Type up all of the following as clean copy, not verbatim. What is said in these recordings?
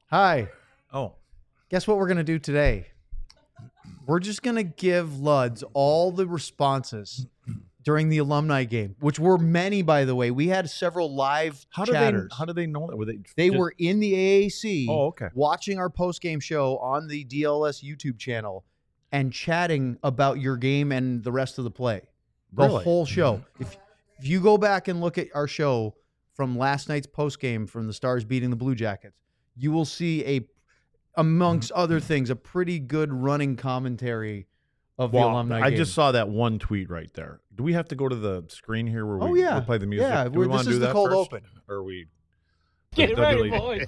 Hi. Oh. Guess what we're going to do today? We're just going to give Luds all the responses during the alumni game, which were many, by the way. We had several live chatters. How do they know that? They were in the AAC okay. watching our post-game show on the DLS YouTube channel and chatting about your game and the rest of the play. The whole show. If you go back and look at our show from last night's post-game from the Stars beating the Blue Jackets, you will see amongst other things, a pretty good running commentary of the alumni game. I just saw that one tweet right there. Do we have to go to the screen here where we'll play the music? Yeah, do we want to do that the cold first? open. Or are we get ready, boys?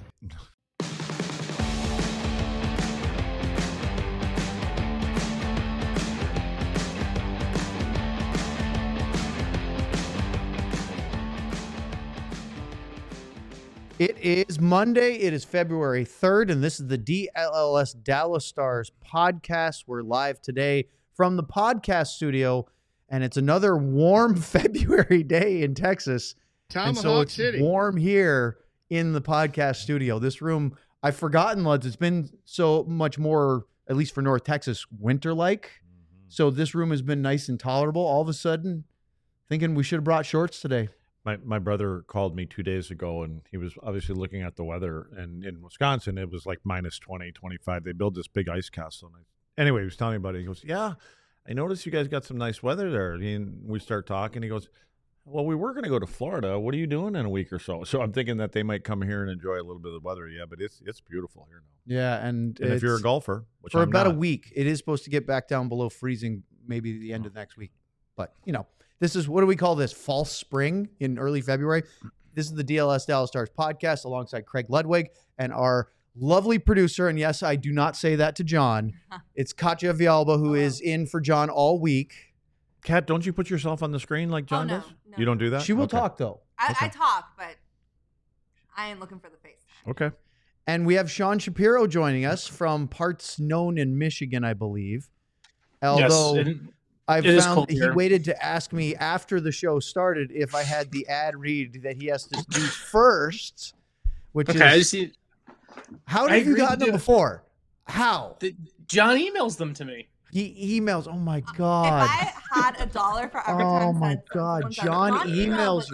It is Monday. It is February 3rd, and this is the DLS Dallas Stars podcast. We're live today from the podcast studio, and it's another warm February day in Texas. Tomahawk City. It's warm here in the podcast studio. This room, I've forgotten, Luds, it's been so much more, at least for North Texas, winter-like. So this room has been nice and tolerable. All of a sudden, thinking we should have brought shorts today. My brother called me 2 days ago, and he was obviously looking at the weather. And in Wisconsin, it was like minus 20, 25. They built this big ice castle. Anyway, he was telling me about it. He goes, yeah, I noticed you guys got some nice weather there. And we start talking. He goes, well, we were going to go to Florida. What are you doing in a week or so? So I'm thinking that they might come here and enjoy a little bit of the weather. Yeah, but it's beautiful here now. Yeah, and if you're a golfer, which for I'm about not. a week, it is supposed to get back down below freezing maybe the end of next week. But, you know. This is, what do we call this? False spring in early February. This is the DLS Dallas Stars podcast alongside Craig Ludwig and our lovely producer. And yes, I do not say that to John. It's Katya Vialba, who is in for John all week. Kat, don't you put yourself on the screen like John does? No. You don't do that? She will talk, though. I talk, but I ain't looking for the face. Okay. And we have Sean Shapiro joining us from parts known in Michigan, I believe. Although... Yes, I found he waited to ask me after the show started if I had the ad read that he has to do first, which is how have you gotten them before? How? John emails them to me. He emails. Oh my God! If I had $1 for every time. Oh my God! John emails you.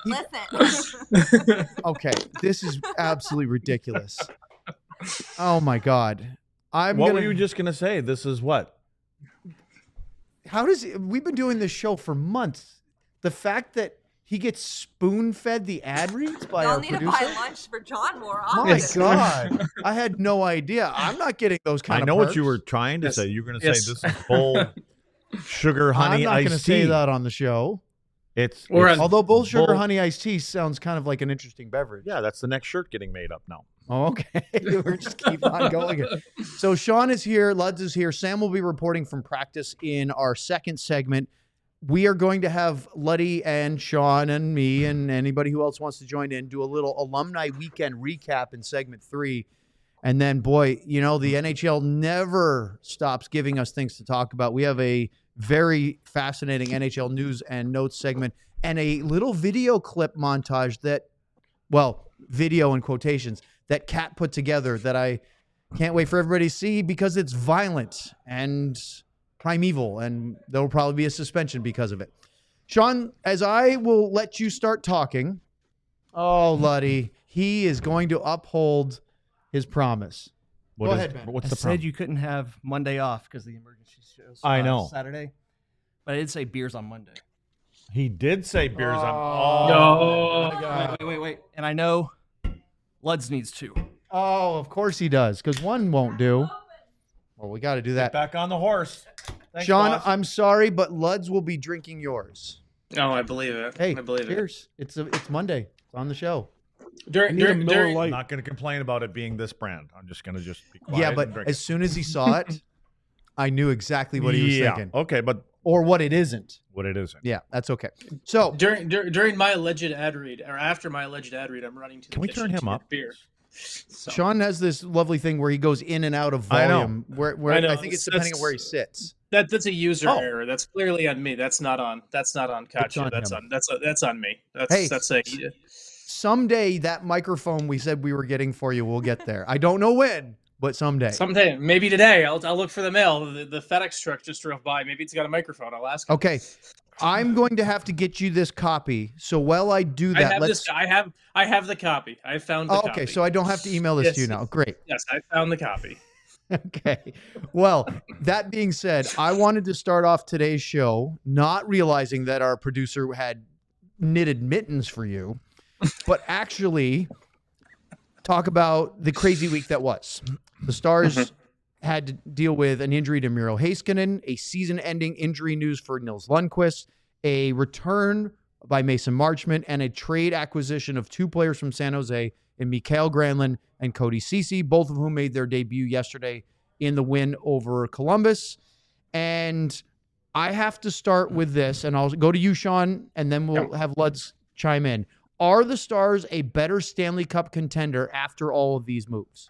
Listen. Okay, this is absolutely ridiculous. Oh my God! What were you just gonna say? This is what? We've been doing this show for months. The fact that he gets spoon-fed the ad reads by our producer. Y'all need to buy lunch for John more often. My God. I had no idea. I'm not getting those kind of perks. I know what you were trying to say. You were going to say this is full sugar honey iced tea. I'm not going to say that on the show. Although bull sugar honey iced tea sounds kind of like an interesting beverage. Yeah, that's the next shirt getting made up now. Oh, okay. We're just keep on going. So Sean is here. Luds is here. Sam will be reporting from practice in our second segment. We are going to have Luddy and Sean and me and anybody who else wants to join in do a little alumni weekend recap in segment 3. And then, boy, you know, the NHL never stops giving us things to talk about. We have a very fascinating NHL news and notes segment and a little video clip montage that, well, video in quotations, that Kat put together that I can't wait for everybody to see because it's violent and primeval, and there will probably be a suspension because of it. Sean, as I will let you start talking, oh, Luddy, he is going to uphold his promise. Go ahead, man. What's I the said problem? you couldn't have Monday off because the emergency shows I know. Saturday. But I did say beers on Monday. He did say beers on. Oh, my God. Wait. And I know Luds needs 2. Oh, of course he does, because 1 won't do. Well, we got to do that. Back on the horse. Thanks, Sean, boss. I'm sorry, but Luds will be drinking yours. No, I believe it. Hey, I believe cheers. It's Monday. It's on the show. it. During, I'm not going to complain about it being this brand. I'm just going to be quiet. Yeah, but and drink as soon as he saw it, I knew exactly what he was thinking. Okay, but Or what it isn't. what it isn't. Yeah, that's okay. So during my alleged ad read, or after my alleged ad read, I'm running to the Can we kitchen turn him to get up? beer. So, Sean has this lovely thing where he goes in and out of I know. volume. Where I know. I think it's depending on where he sits. that's a user Oh. error. That's clearly on me. That's not on Katya. on That's him. on me. That's a someday that microphone we said we were getting for you will get there. I don't know when, but someday. Someday, maybe today. I'll look for the mail. The FedEx truck just drove by. Maybe it's got a microphone. I'll ask him. Okay. I'm going to have to get you this copy. So while I do that, I have the copy. I found the copy. Okay, so I don't have to email this to you now. Great. Yes, I found the copy. Okay. Well, that being said, I wanted to start off today's show not realizing that our producer had knitted mittens for you, but actually talk about the crazy week that was. The Stars had to deal with an injury to Miro Heiskanen, a season-ending injury news for Nils Lundqvist, a return by Mason Marchment, and a trade acquisition of 2 players from San Jose in Mikael Granlund and Cody Ceci, both of whom made their debut yesterday in the win over Columbus. And I have to start with this, and I'll go to you, Sean, and then we'll have Luds chime in. Are the Stars a better Stanley Cup contender after all of these moves?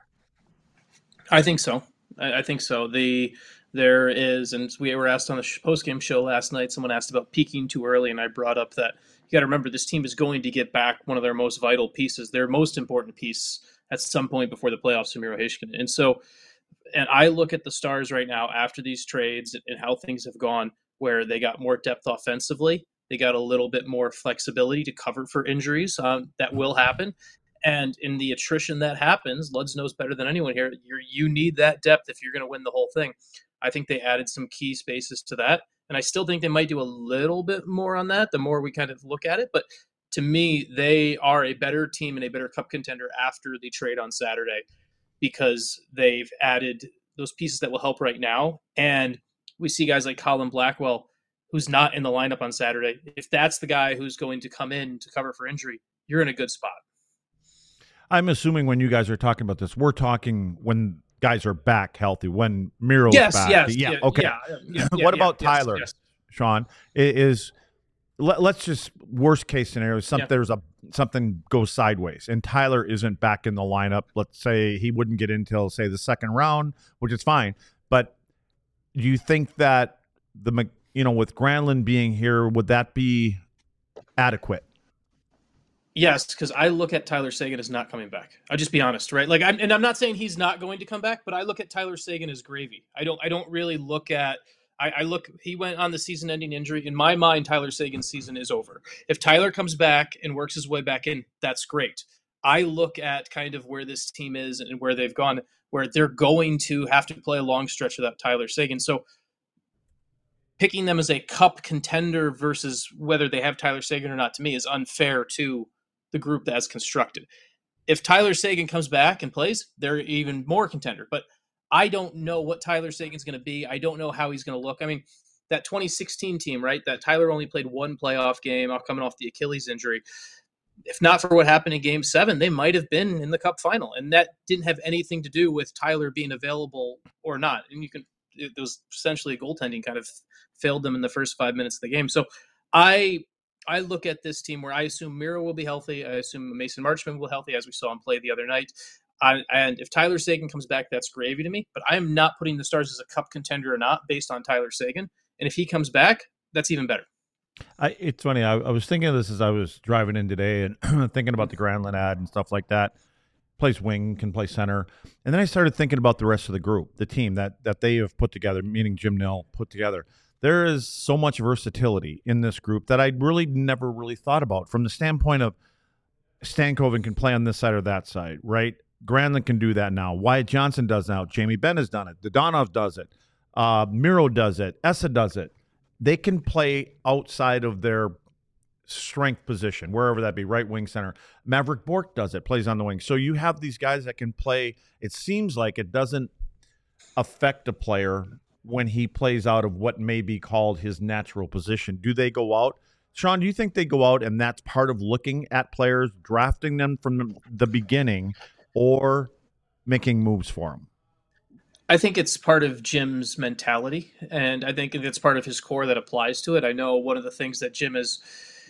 I think so. I think so. There is, and we were asked on the post-game show last night, someone asked about peaking too early, and I brought up that you got to remember this team is going to get back one of their most vital pieces, their most important piece at some point before the playoffs, Miro Heiskanen. And so, and I look at the Stars right now after these trades and how things have gone, where they got more depth offensively, they got a little bit more flexibility to cover for injuries that will happen. And in the attrition that happens, Luds knows better than anyone here, you need that depth if you're going to win the whole thing. I think they added some key spaces to that. And I still think they might do a little bit more on that the more we kind of look at it. But to me, they are a better team and a better cup contender after the trade on Saturday because they've added those pieces that will help right now. And we see guys like Colin Blackwell, who's not in the lineup on Saturday. If that's the guy who's going to come in to cover for injury, you're in a good spot. I'm assuming when you guys are talking about this, we're talking when guys are back healthy, when Miro's back. Okay. What about Tyler, Sean? Let's just worst case scenario. Something goes sideways, and Tyler isn't back in the lineup. Let's say he wouldn't get in until say the second round, which is fine. But do you think that with Granlund being here, would that be adequate? Yes, because I look at Tyler Seguin as not coming back. I'll just be honest, right? I'm not saying he's not going to come back, but I look at Tyler Seguin as gravy. I don't really look at. He went on the season-ending injury. In my mind, Tyler Seguin's season is over. If Tyler comes back and works his way back in, that's great. I look at kind of where this team is and where they've gone, where they're going to have to play a long stretch without Tyler Seguin. So picking them as a cup contender versus whether they have Tyler Seguin or not, to me, is unfair to the group that's constructed. If Tyler Seguin comes back and plays, they're even more contender. But I don't know what Tyler Seguin's going to be. I don't know how he's going to look. I mean, that 2016 team, right, that Tyler only played one playoff game coming off the Achilles injury. If not for what happened in Game 7, they might have been in the Cup final. And that didn't have anything to do with Tyler being available or not. And it was essentially goaltending kind of failed them in the first 5 minutes of the game. So I look at this team where I assume Miro will be healthy. I assume Mason Marchment will be healthy, as we saw him play the other night. And if Tyler Seguin comes back, that's gravy to me. But I am not putting the Stars as a cup contender or not based on Tyler Seguin. And if he comes back, that's even better. It's funny. I was thinking of this as I was driving in today and thinking about the Granlund ad and stuff like that. Plays wing, can play center. And then I started thinking about the rest of the group, the team that they have put together, meaning Jim Nill put together. There is so much versatility in this group that I really never really thought about from the standpoint of Stankoven can play on this side or that side, right? Granlund can do that now. Wyatt Johnson does now. Jamie Benn has done it. Dodonov does it. Miro does it. Essa does it. They can play outside of their strength position, wherever that be, right wing, center. Maverick Bourque does it, plays on the wing. So you have these guys that can play. It seems like it doesn't affect a player when he plays out of what may be called his natural position. Do they go out? Sean, do you think they go out and that's part of looking at players, drafting them from the beginning, or making moves for them? I think it's part of Jim's mentality, and I think it's part of his core that applies to it. I know one of the things that Jim is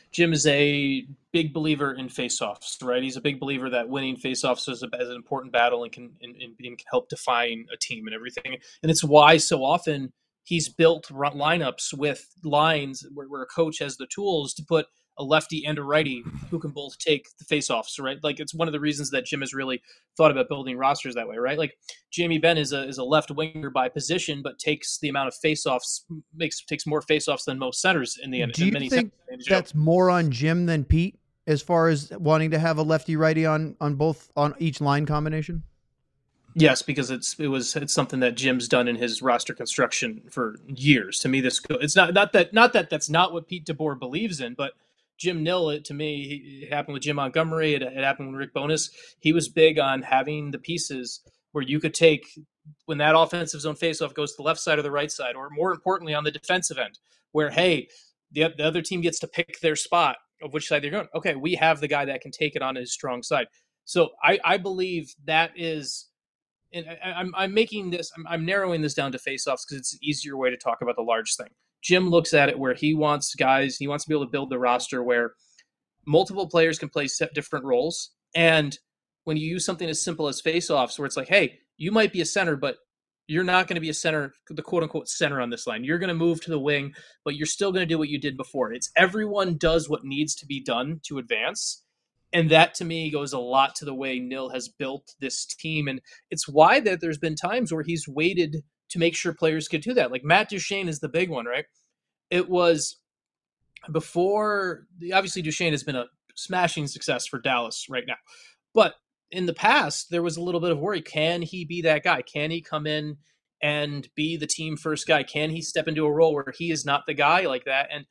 a big believer in faceoffs, right? He's a big believer that winning faceoffs is an important battle and can help define a team and everything. And it's why so often he's built lineups with lines where a coach has the tools to put a lefty and a righty who can both take the faceoffs, right? Like it's one of the reasons that Jim has really thought about building rosters that way, right? Like Jamie Benn is a left winger by position, but takes the amount of faceoffs, takes more faceoffs than most centers in the end. Do you think that's more on Jim than Pete as far as wanting to have a lefty righty on each line combination? Yes, because it's something that Jim's done in his roster construction for years. To me, it's not that that's not what Pete DeBoer believes in, but Jim Nill, to me, it happened with Jim Montgomery. It happened with Rick Bowness. He was big on having the pieces where you could take when that offensive zone faceoff goes to the left side or the right side, or more importantly on the defensive end, where hey, the other team gets to pick their spot of which side they're going. Okay, we have the guy that can take it on his strong side. So I believe that is. And I'm making this, I'm narrowing this down to faceoffs because it's an easier way to talk about the large thing. Jim looks at it where he wants to be able to build the roster where multiple players can play different roles. And when you use something as simple as faceoffs, where it's like, hey, you might be a center, but you're not going to be a center, the quote unquote center on this line. You're going to move to the wing, but you're still going to do what you did before. It's everyone does what needs to be done to advance. And that, to me, goes a lot to the way Nill has built this team. And it's why that there's been times where he's waited to make sure players could do that. Like Matt Duchene is the big one, right? It was before, obviously Duchene has been a smashing success for Dallas right now. But in the past, there was a little bit of worry. Can he be that guy? Can he come in and be the team first guy? Can he step into a role where he is not the guy like that? And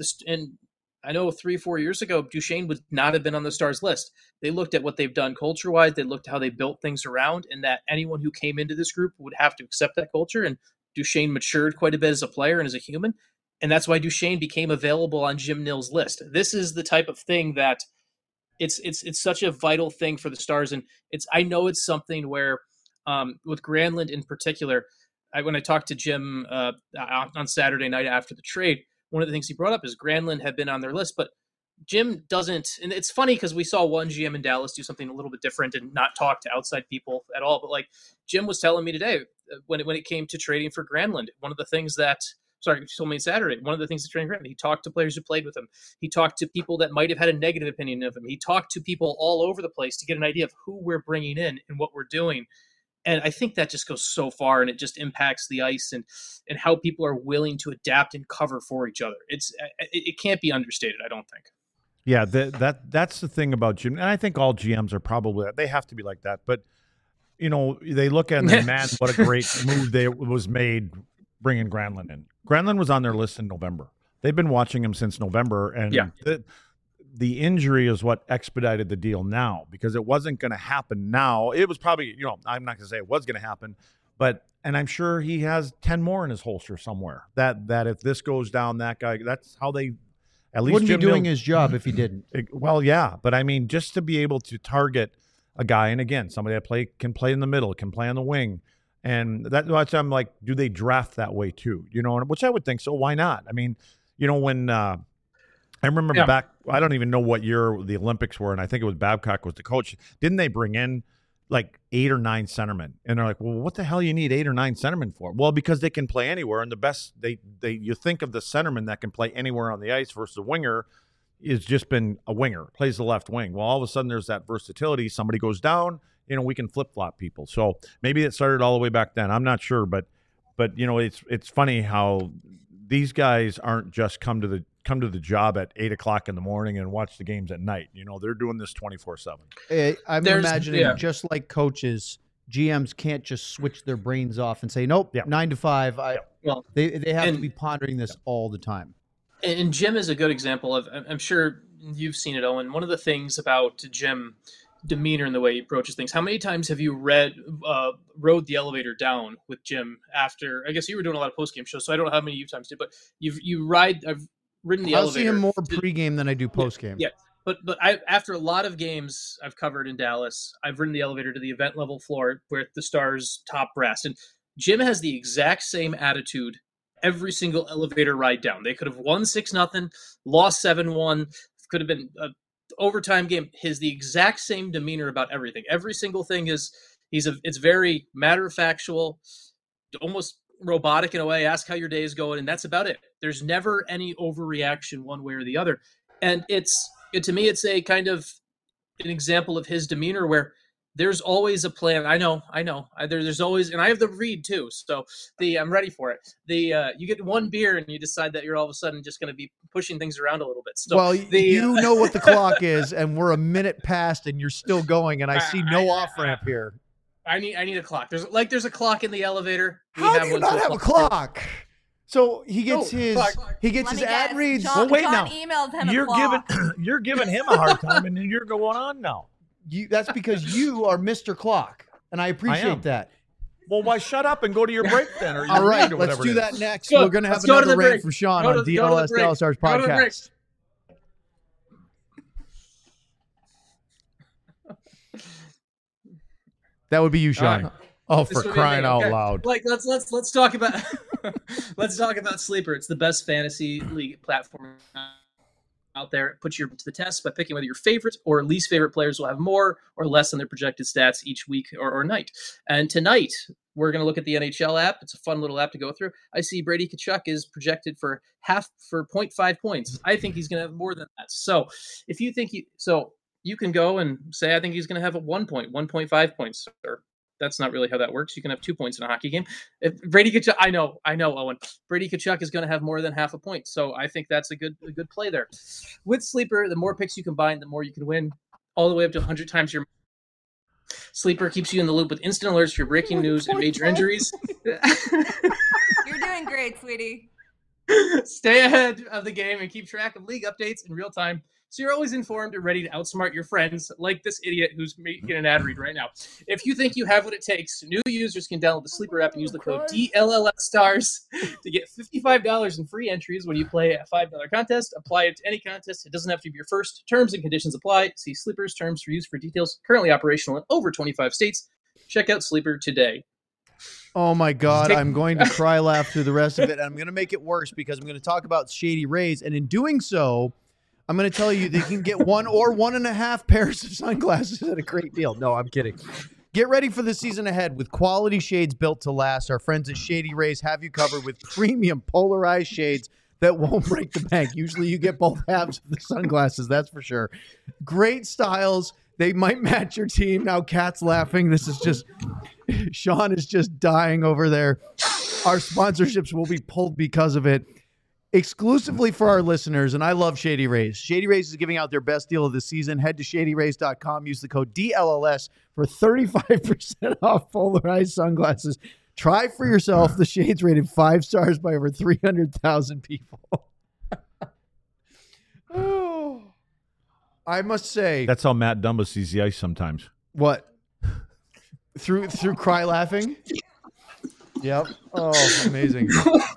I know 3-4 years ago, Duchene would not have been on the Stars list. They looked at what they've done culture-wise. They looked at how they built things around, and that anyone who came into this group would have to accept that culture. And Duchene matured quite a bit as a player and as a human. And that's why Duchene became available on Jim Nill's list. This is the type of thing that it's such a vital thing for the Stars. And I know it's something where with Granlund in particular, when I talked to Jim on Saturday night after the trade, one of the things he brought up is Granlund had been on their list, but Jim doesn't. And it's funny because we saw one GM in Dallas do something a little bit different and not talk to outside people at all. But like Jim was telling me today, when it came to trading for Granlund, one of the things that, he told me Saturday, one of the things that trading Granlund, he talked to players who played with him. He talked to people that might have had a negative opinion of him. He talked to people all over the place to get an idea of who we're bringing in and what we're doing. And I think that just goes so far, and it just impacts the ice and how people are willing to adapt and cover for each other. It can't be understated, I don't think. Yeah, that's the thing about Jim, and I think all GMs are probably they have to be like that. But they look at it, man, what a great move was made bringing Granlund in. Granlund was on their list in November. They've been watching him since November, and the injury is what expedited the deal now, because it wasn't going to happen now. It was probably, I'm not going to say it was going to happen, and I'm sure he has 10 more in his holster somewhere that if this goes down, that guy, that's how they, at least wouldn't Jim be doing Nill, his job if he didn't. Well, yeah, but I mean, just to be able to target a guy, and again, somebody that can play in the middle, can play on the wing, and that's I'm like, do they draft that way too? Which I would think so. Why not? I mean, when I remember back, I don't even know what year the Olympics were, and I think it was Babcock was the coach. Didn't they bring in like 8 or 9 centermen? And they're like, well, what the hell you need 8 or 9 centermen for? Well, because they can play anywhere, and the best you think of the centerman that can play anywhere on the ice versus a winger is just been a winger, plays the left wing. Well, all of a sudden there's that versatility. Somebody goes down, we can flip-flop people. So maybe it started all the way back then. I'm not sure, but it's funny how these guys aren't just come to the job at 8 o'clock in the morning and watch the games at night. They're doing this 24/7. I'm imagining just like coaches, GMs can't just switch their brains off and say, nope, 9 to 5. They have to be pondering this all the time. And Jim is a good example of, I'm sure you've seen it, Owen. One of the things about Jim demeanor and the way he approaches things. How many times have you rode the elevator down with Jim after? I guess you were doing a lot of post game shows, so I don't know how many you times did, but I've ridden the elevator. I'll see him more pregame than I do postgame. Yeah. But after a lot of games I've covered in Dallas, I've ridden the elevator to the event level floor where the Stars top brass, and Jim has the exact same attitude every single elevator ride down. They could have won 6-0, lost 7-1, could have been a overtime game. The exact same demeanor about everything. Every single thing is it's very matter of factual, almost robotic in a way. Ask how your day is going, and that's about it. There's never any overreaction one way or the other. And to me, it's a kind of an example of his demeanor where there's always a plan. I know. There's always, and I have the read too. So I'm ready for it. You get one beer and you decide that you're all of a sudden just going to be pushing things around a little bit. So well, you know what the clock is, and we're a minute past, and you're still going, and I see no off ramp here. I need a clock. There's a clock in the elevator. How do you not have a clock? So he gets his ad reads. Sean, wait Sean now. emailed him You're a clock. you're giving him a hard time, and then you're going on now. That's because you are Mr. Clock, and I appreciate that. Well, why shut up and go to your break then? Or your All right, read or let's whatever do it that is. next. Go. We're going to have Let's go to another the rant break. for Sean Go on to the DLS break. Dallas Stars Go to the break. podcast. That would be you, Sean. All Oh, This for would be crying me. out Okay. loud! Like let's talk about let's talk about Sleeper. It's the best fantasy league platform out there. It puts you to the test by picking whether your favorite or least favorite players will have more or less than their projected stats each week or night. And tonight we're going to look at the NHL app. It's a fun little app to go through. I see Brady Tkachuk is projected for 0.5 points. I think he's going to have more than that. So if you think you can go and say, I think he's going to have a 1.5 points, or that's not really how that works. You can have 2 points in a hockey game. If Brady Tkachuk, I know, Owen. Brady Tkachuk is going to have more than half a point, so I think that's a good play there. With Sleeper, the more picks you combine, the more you can win, all the way up to 100 times your. Sleeper keeps you in the loop with instant alerts for breaking news and major injuries. You're doing great, sweetie. Stay ahead of the game and keep track of league updates in real time, so you're always informed and ready to outsmart your friends, like this idiot who's making an ad read right now. If you think you have what it takes, new users can download the Sleeper app and use the code DLLSstars to get $55 in free entries when you play a $5 contest. Apply it to any contest. It doesn't have to be your first. Terms and conditions apply. See Sleeper's terms for use for details. Currently operational in over 25 states. Check out Sleeper today. Oh my God, I'm going to cry laugh through the rest of it. And I'm going to make it worse because I'm going to talk about Shady Rays. And in doing so, I'm going to tell you that you can get 1 or 1.5 pairs of sunglasses at a great deal. No, I'm kidding. Get ready for the season ahead with quality shades built to last. Our friends at Shady Rays have you covered with premium polarized shades that won't break the bank. Usually you get both halves of the sunglasses, that's for sure. Great styles. They might match your team. Now Kat's laughing. This is just, Sean is just dying over there. Our sponsorships will be pulled because of it. Exclusively for our listeners, and I love Shady Rays. Shady Rays is giving out their best deal of the season. Head to shadyrays.com. Use the code DLLS for 35% off polarized sunglasses. Try for yourself. The shades rated 5 stars by over 300,000 people. Oh, I must say. That's how Matt Dumba sees the ice sometimes. What? Through cry laughing? Yep. Oh, amazing.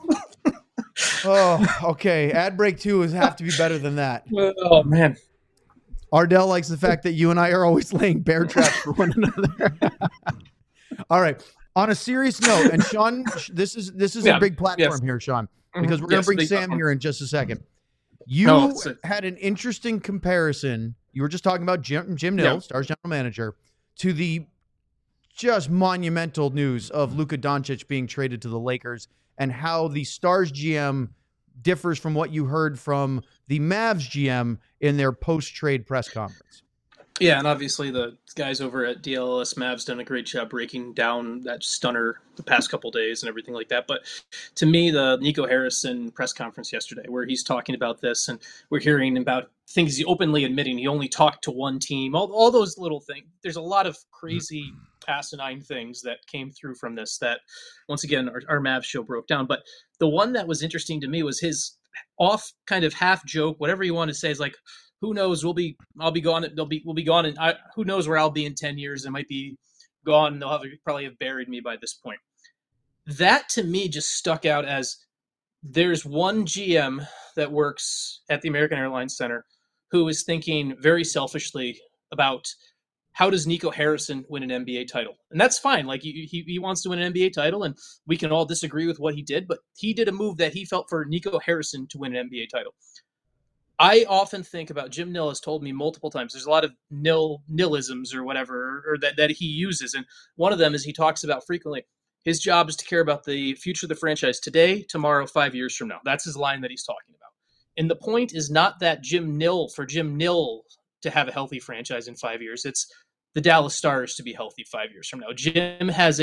Oh, okay. Ad break 2 have to be better than that. Oh, man. Ardell likes the fact that you and I are always laying bear traps for one another. All right. On a serious note, and Sean, this is a big platform here, Sean, because we're going to bring Sam here in just a second. You had an interesting comparison. You were just talking about Jim Nill, Stars general manager, to the just monumental news of Luka Doncic being traded to the Lakers, and how the Stars GM differs from what you heard from the Mavs GM in their post-trade press conference. Yeah, and obviously the guys over at DLS Mavs done a great job breaking down that stunner the past couple days and everything like that. But to me, the Nico Harrison press conference yesterday, where he's talking about this, and we're hearing about things he's openly admitting he only talked to one team, all those little things. There's a lot of crazy asinine things that came through from this that, once again, our Mavs show broke down. But the one that was interesting to me was his off kind of half joke, whatever you want to say, is like, who knows? I'll be gone. We'll be gone, and who knows where I'll be in 10 years? I might be gone. They'll probably have buried me by this point. That to me just stuck out as there's one GM that works at the American Airlines Center who is thinking very selfishly about how does Nico Harrison win an NBA title? And that's fine. Like he wants to win an NBA title, and we can all disagree with what he did, but he did a move that he felt for Nico Harrison to win an NBA title. I often think about, Jim Nill has told me multiple times, there's a lot of Nillisms or whatever, or that he uses. And one of them is he talks about frequently, his job is to care about the future of the franchise today, tomorrow, 5 years from now. That's his line that he's talking about. And the point is not that Jim Nill to have a healthy franchise in 5 years. It's the Dallas Stars to be healthy 5 years from now. Jim has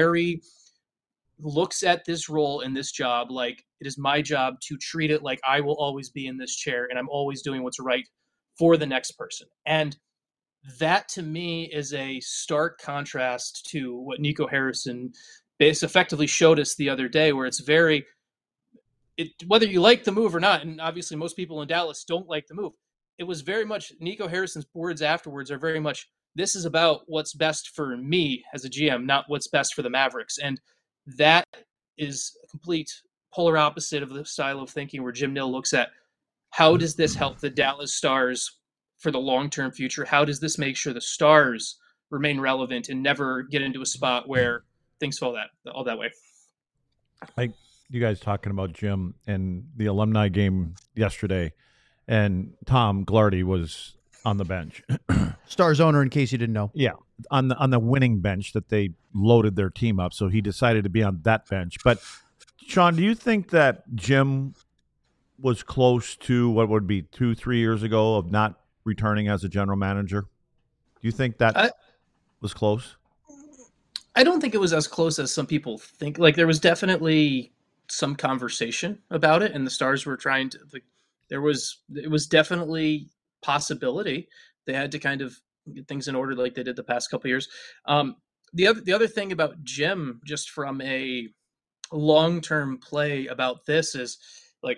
looks at this role and this job like it is my job to treat it like I will always be in this chair and I'm always doing what's right for the next person. And that to me is a stark contrast to what Nico Harrison effectively showed us the other day, where it's whether you like the move or not, and obviously most people in Dallas don't like the move. It was very much Nico Harrison's words afterwards are very much, this is about what's best for me as a GM, not what's best for the Mavericks. And that is a complete polar opposite of the style of thinking where Jim Nill looks at how does this help the Dallas Stars for the long-term future? How does this make sure the Stars remain relevant and never get into a spot where things fall all that way? Like you guys talking about Jim and the alumni game yesterday, and Tom Glardy was on the bench. Stars owner, in case you didn't know. Yeah, on the winning bench that they loaded their team up, so he decided to be on that bench. But Sean, do you think that Jim was close to what would be 2-3 years ago of not returning as a general manager? Do you think that was close? I don't think it was as close as some people think. Like, there was definitely some conversation about it, and the Stars were trying to. It was definitely possibility. They had to kind of get things in order, like they did the past couple of years. The other thing about Jim, just from a long-term play about this, is like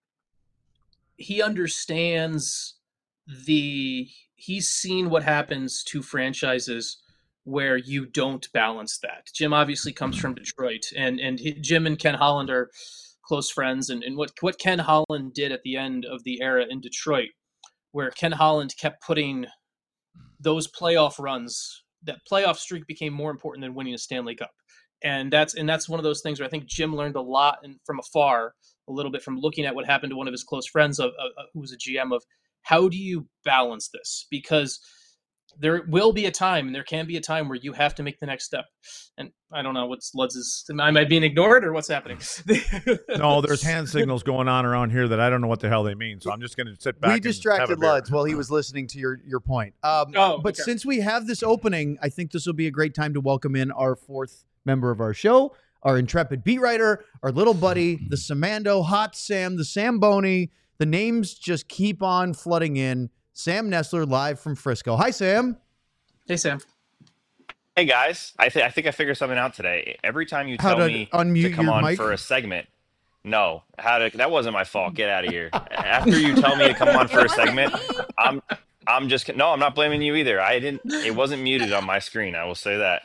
he understands he's seen what happens to franchises where you don't balance that. Jim obviously comes from Detroit, and Jim and Ken Holland are close friends. And what Ken Holland did at the end of the era in Detroit, where Ken Holland kept putting those playoff runs, that playoff streak became more important than winning a Stanley Cup. And that's one of those things where I think Jim learned a lot from afar, a little bit from looking at what happened to one of his close friends who was a GM, of how do you balance this? Because there will be a time, and there can be a time, where you have to make the next step. And I don't know what's Ludz's. Am I being ignored, or what's happening? No, there's hand signals going on around here that I don't know what the hell they mean. So I'm just going to sit back. We distracted Ludz while he was listening to your point. But since we have this opening, I think this will be a great time to welcome in our fourth member of our show, our intrepid beat writer, our little buddy, the Samando, Hot Sam, the Samboni. The names just keep on flooding in. Sam Nestler, live from Frisco. Hi, Sam. Hey, Sam. Hey, guys. I think I figured something out today. Every time you tell me to come on mic? for a segment, that wasn't my fault. Get out of here. After you tell me to come on for a segment, I'm not blaming you either. It wasn't muted on my screen. I will say that.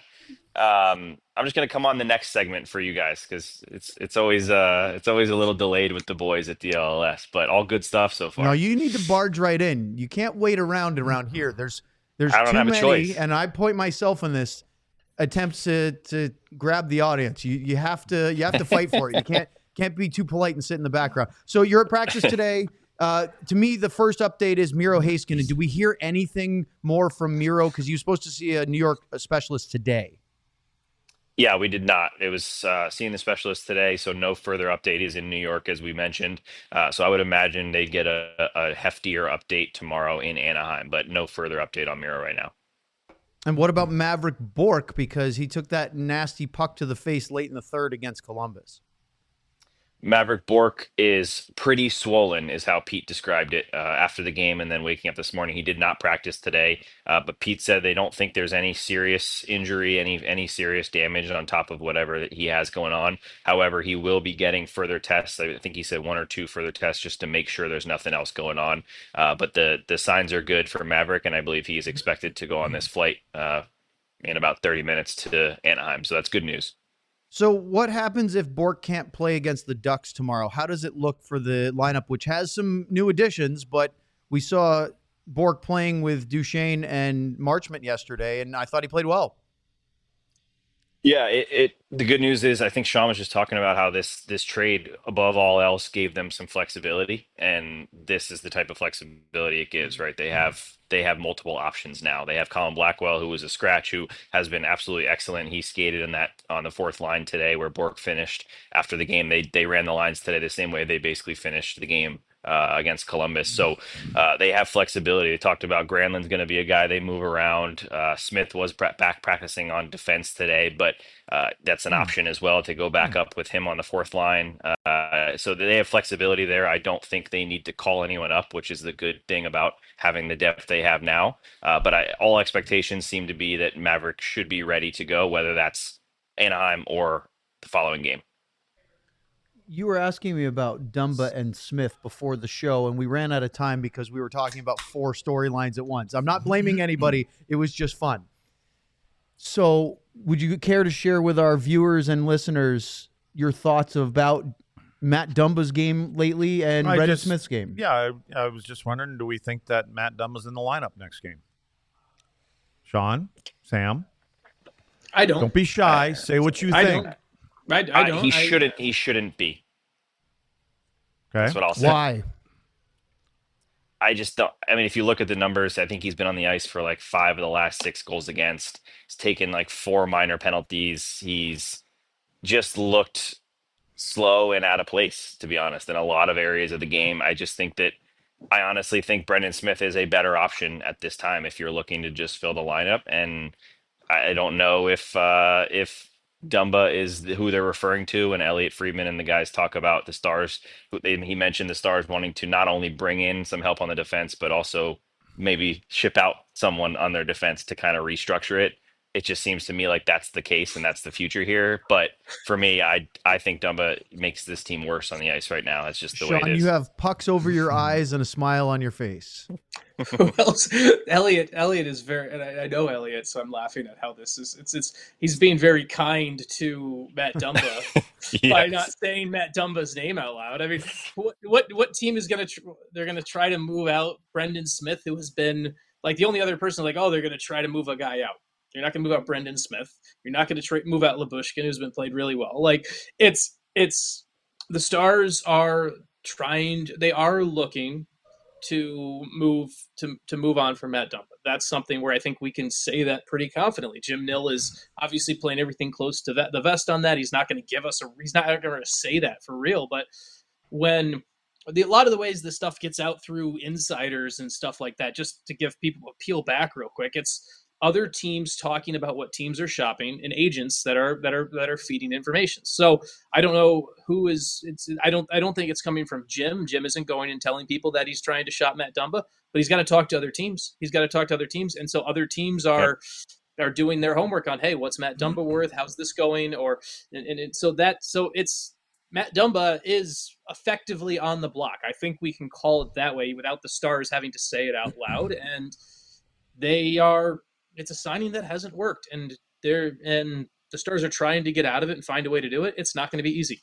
I'm just gonna come on the next segment for you guys because it's always a little delayed with the boys at DLS, but all good stuff so far. No, you need to barge right in. You can't wait around here. There's I don't too have a many, choice. and I point myself in this attempts to grab the audience. You have to fight for it. You can't be too polite and sit in the background. So you're at practice today. To me, the first update is Miro Heiskanen. Do we hear anything more from Miro? Because you're supposed to see a New York specialist today. Yeah, we did not. It was seeing the specialist today, so no further update. Is in New York, as we mentioned. So I would imagine they'd get a heftier update tomorrow in Anaheim, but no further update on Miro right now. And what about Maverick Bourque? Because he took that nasty puck to the face late in the third against Columbus. Maverick Bourque is pretty swollen, is how Pete described it after the game, and then waking up this morning. He did not practice today, but Pete said they don't think there's any serious injury, any serious damage on top of whatever that he has going on. However, he will be getting further tests. I think he said 1 or 2 further tests just to make sure there's nothing else going on. But the signs are good for Maverick, and I believe he is expected to go on this flight in about 30 minutes to Anaheim. So that's good news. So what happens if Bourque can't play against the Ducks tomorrow? How does it look for the lineup, which has some new additions, but we saw Bourque playing with Duchesne and Marchment yesterday, and I thought he played well. Yeah, the good news is I think Sean was just talking about how this trade above all else gave them some flexibility, and this is the type of flexibility it gives, right? They have multiple options now. They have Colin Blackwell, who was a scratch, who has been absolutely excellent. He skated on the fourth line today where Bourque finished after the game. They ran the lines today the same way they basically finished the game against Columbus. So they have flexibility. They talked about Granlund's going to be a guy they move around. Smith was back practicing on defense today, but that's an option as well to go back up with him on the fourth line. So they have flexibility there. I don't think they need to call anyone up, which is the good thing about having the depth they have now. But all expectations seem to be that Maverick should be ready to go, whether that's Anaheim or the following game. You were asking me about Dumba and Smith before the show, and we ran out of time because we were talking about 4 storylines at once. I'm not blaming anybody. It was just fun. So would you care to share with our viewers and listeners your thoughts about Matt Dumba's game lately and Brendan Smith's game? Yeah, I was just wondering, do we think that Matt Dumba's in the lineup next game? Sean? Sam? I don't. Don't be shy. Say what you think. I don't. He shouldn't be. Okay. That's what I'll say. Why? I just don't. I mean, if you look at the numbers, I think he's been on the ice for like 5 of the last 6 goals against. He's taken like 4 minor penalties. He's just looked slow and out of place, to be honest, in a lot of areas of the game. I honestly think Brendan Smith is a better option at this time if you're looking to just fill the lineup. And I don't know if Dumba is who they're referring to, and Elliot Friedman and the guys talk about the Stars. He mentioned the Stars wanting to not only bring in some help on the defense, but also maybe ship out someone on their defense to kind of restructure it. It just seems to me like that's the case and that's the future here. But for me, I think Dumba makes this team worse on the ice right now. It's just the way it is. You have pucks over your eyes and a smile on your face. Who else? Elliot is very, and I know Elliot, so I'm laughing at how this is. He's being very kind to Matt Dumba Yes. by not saying Matt Dumba's name out loud. I mean, what team is they're gonna try to move out Brendan Smith, who has been like the only other person like, oh, they're gonna try to move a guy out. You're not gonna move out Brendan Smith. You're not gonna move out Lyubushkin, who's been played really well. Like it's the Stars are trying. They are looking to move on from Matt Dumba. That's something where I think we can say that pretty confidently. Jim Nill is obviously playing everything close to the vest on that. He's not going to give us he's not going to say that for real. But when a lot of the ways this stuff gets out through insiders and stuff like that, just to give people a peel back real quick, it's other teams talking about what teams are shopping and agents that are feeding information. So I don't know who is. I don't think it's coming from Jim. Jim isn't going and telling people that he's trying to shop Matt Dumba, but he's got to talk to other teams. And so other teams are doing their homework on, hey, what's Matt Dumba worth? How's this going? So it's Matt Dumba is effectively on the block. I think we can call it that way without the Stars having to say it out loud. And they are. It's a signing that hasn't worked, and the Stars are trying to get out of it and find a way to do it. It's not going to be easy.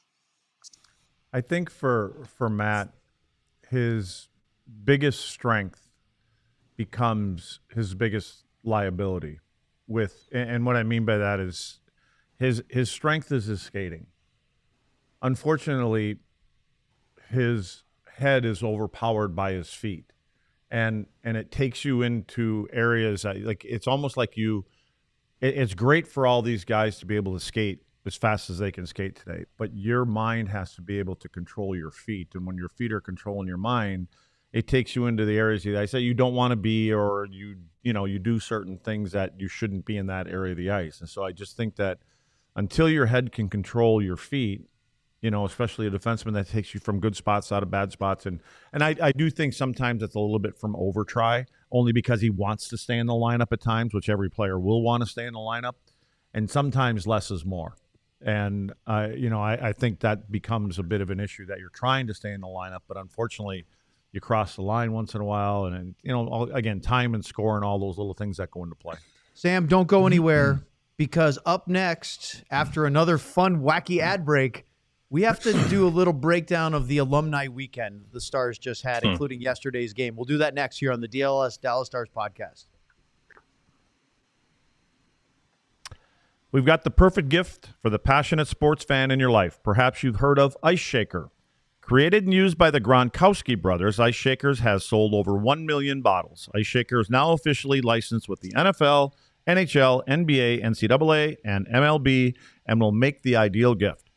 I think for Matt, his biggest strength becomes his biggest liability. And what I mean by that is his strength is his skating. Unfortunately, his head is overpowered by his feet. And it takes you into areas that, like, it's almost like it's great for all these guys to be able to skate as fast as they can skate today, but your mind has to be able to control your feet. And when your feet are controlling your mind, it takes you into the areas that I say you don't want to be, or you do certain things that you shouldn't be in that area of the ice. And so I just think that until your head can control your feet, especially a defenseman, that takes you from good spots out of bad spots. And I do think sometimes it's a little bit from over-try, only because he wants to stay in the lineup at times, which every player will want to stay in the lineup. And sometimes less is more. And, I think that becomes a bit of an issue, that you're trying to stay in the lineup, but unfortunately you cross the line once in a while. And, again, time and score and all those little things that go into play. Sam, don't go anywhere, because up next, after another fun, wacky ad break, we have to do a little breakdown of the alumni weekend the Stars just had, including yesterday's game. We'll do that next here on the DLS Dallas Stars podcast. We've got the perfect gift for the passionate sports fan in your life. Perhaps you've heard of Ice Shaker. Created and used by the Gronkowski brothers, Ice Shakers has sold over 1 million bottles. Ice Shaker is now officially licensed with the NFL, NHL, NBA, NCAA, and MLB, and will make the ideal gift.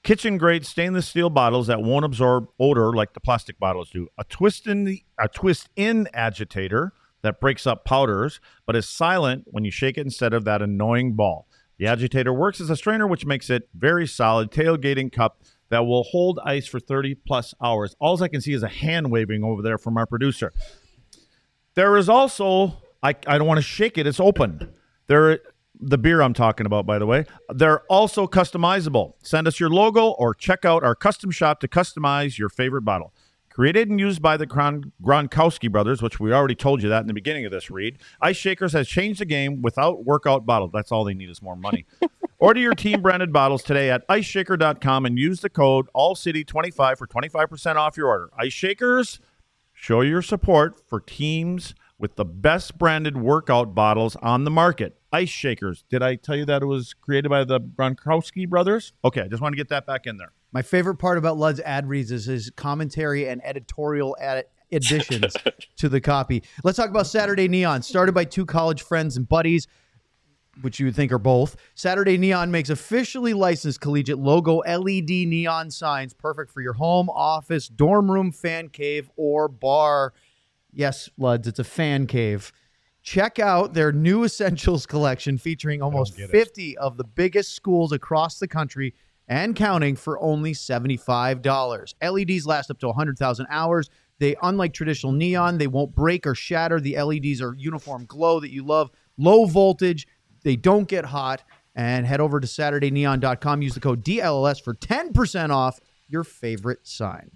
Kitchen-grade stainless steel bottles that won't absorb odor like the plastic bottles do. A twist-in agitator that breaks up powders, but is silent when you shake it instead of that annoying ball. The agitator works as a strainer, which makes it very solid tailgating cup that will hold ice for 30-plus hours. All I can see is a hand waving over there from our producer. There is also, I don't want to shake it, it's open. The beer I'm talking about, by the way. They're also customizable. Send us your logo or check out our custom shop to customize your favorite bottle. Created and used by the Gronkowski brothers, which we already told you that in the beginning of this read, Ice Shakers has changed the game without workout bottles. That's all they need is more money. Order your team-branded bottles today at iceshaker.com and use the code ALLCITY25 for 25% off your order. Ice Shakers, show your support for teams with the best branded workout bottles on the market. Ice Shakers. Did I tell you that it was created by the Gronkowski brothers? Okay, I just want to get that back in there. My favorite part about Lud's ad reads is his commentary and editorial additions to the copy. Let's talk about Saturday Neon. Started by two college friends and buddies, which you would think are both. Saturday Neon makes officially licensed collegiate logo LED neon signs, perfect for your home, office, dorm room, fan cave, or bar. Yes, Luds, it's a fan cave. Check out their new Essentials collection featuring almost 50 of the biggest schools across the country and counting for only $75. LEDs last up to 100,000 hours. They, unlike traditional neon, they won't break or shatter. The LEDs are uniform glow that you love. Low voltage. They don't get hot. And head over to SaturdayNeon.com. Use the code DLLS for 10% off your favorite sign.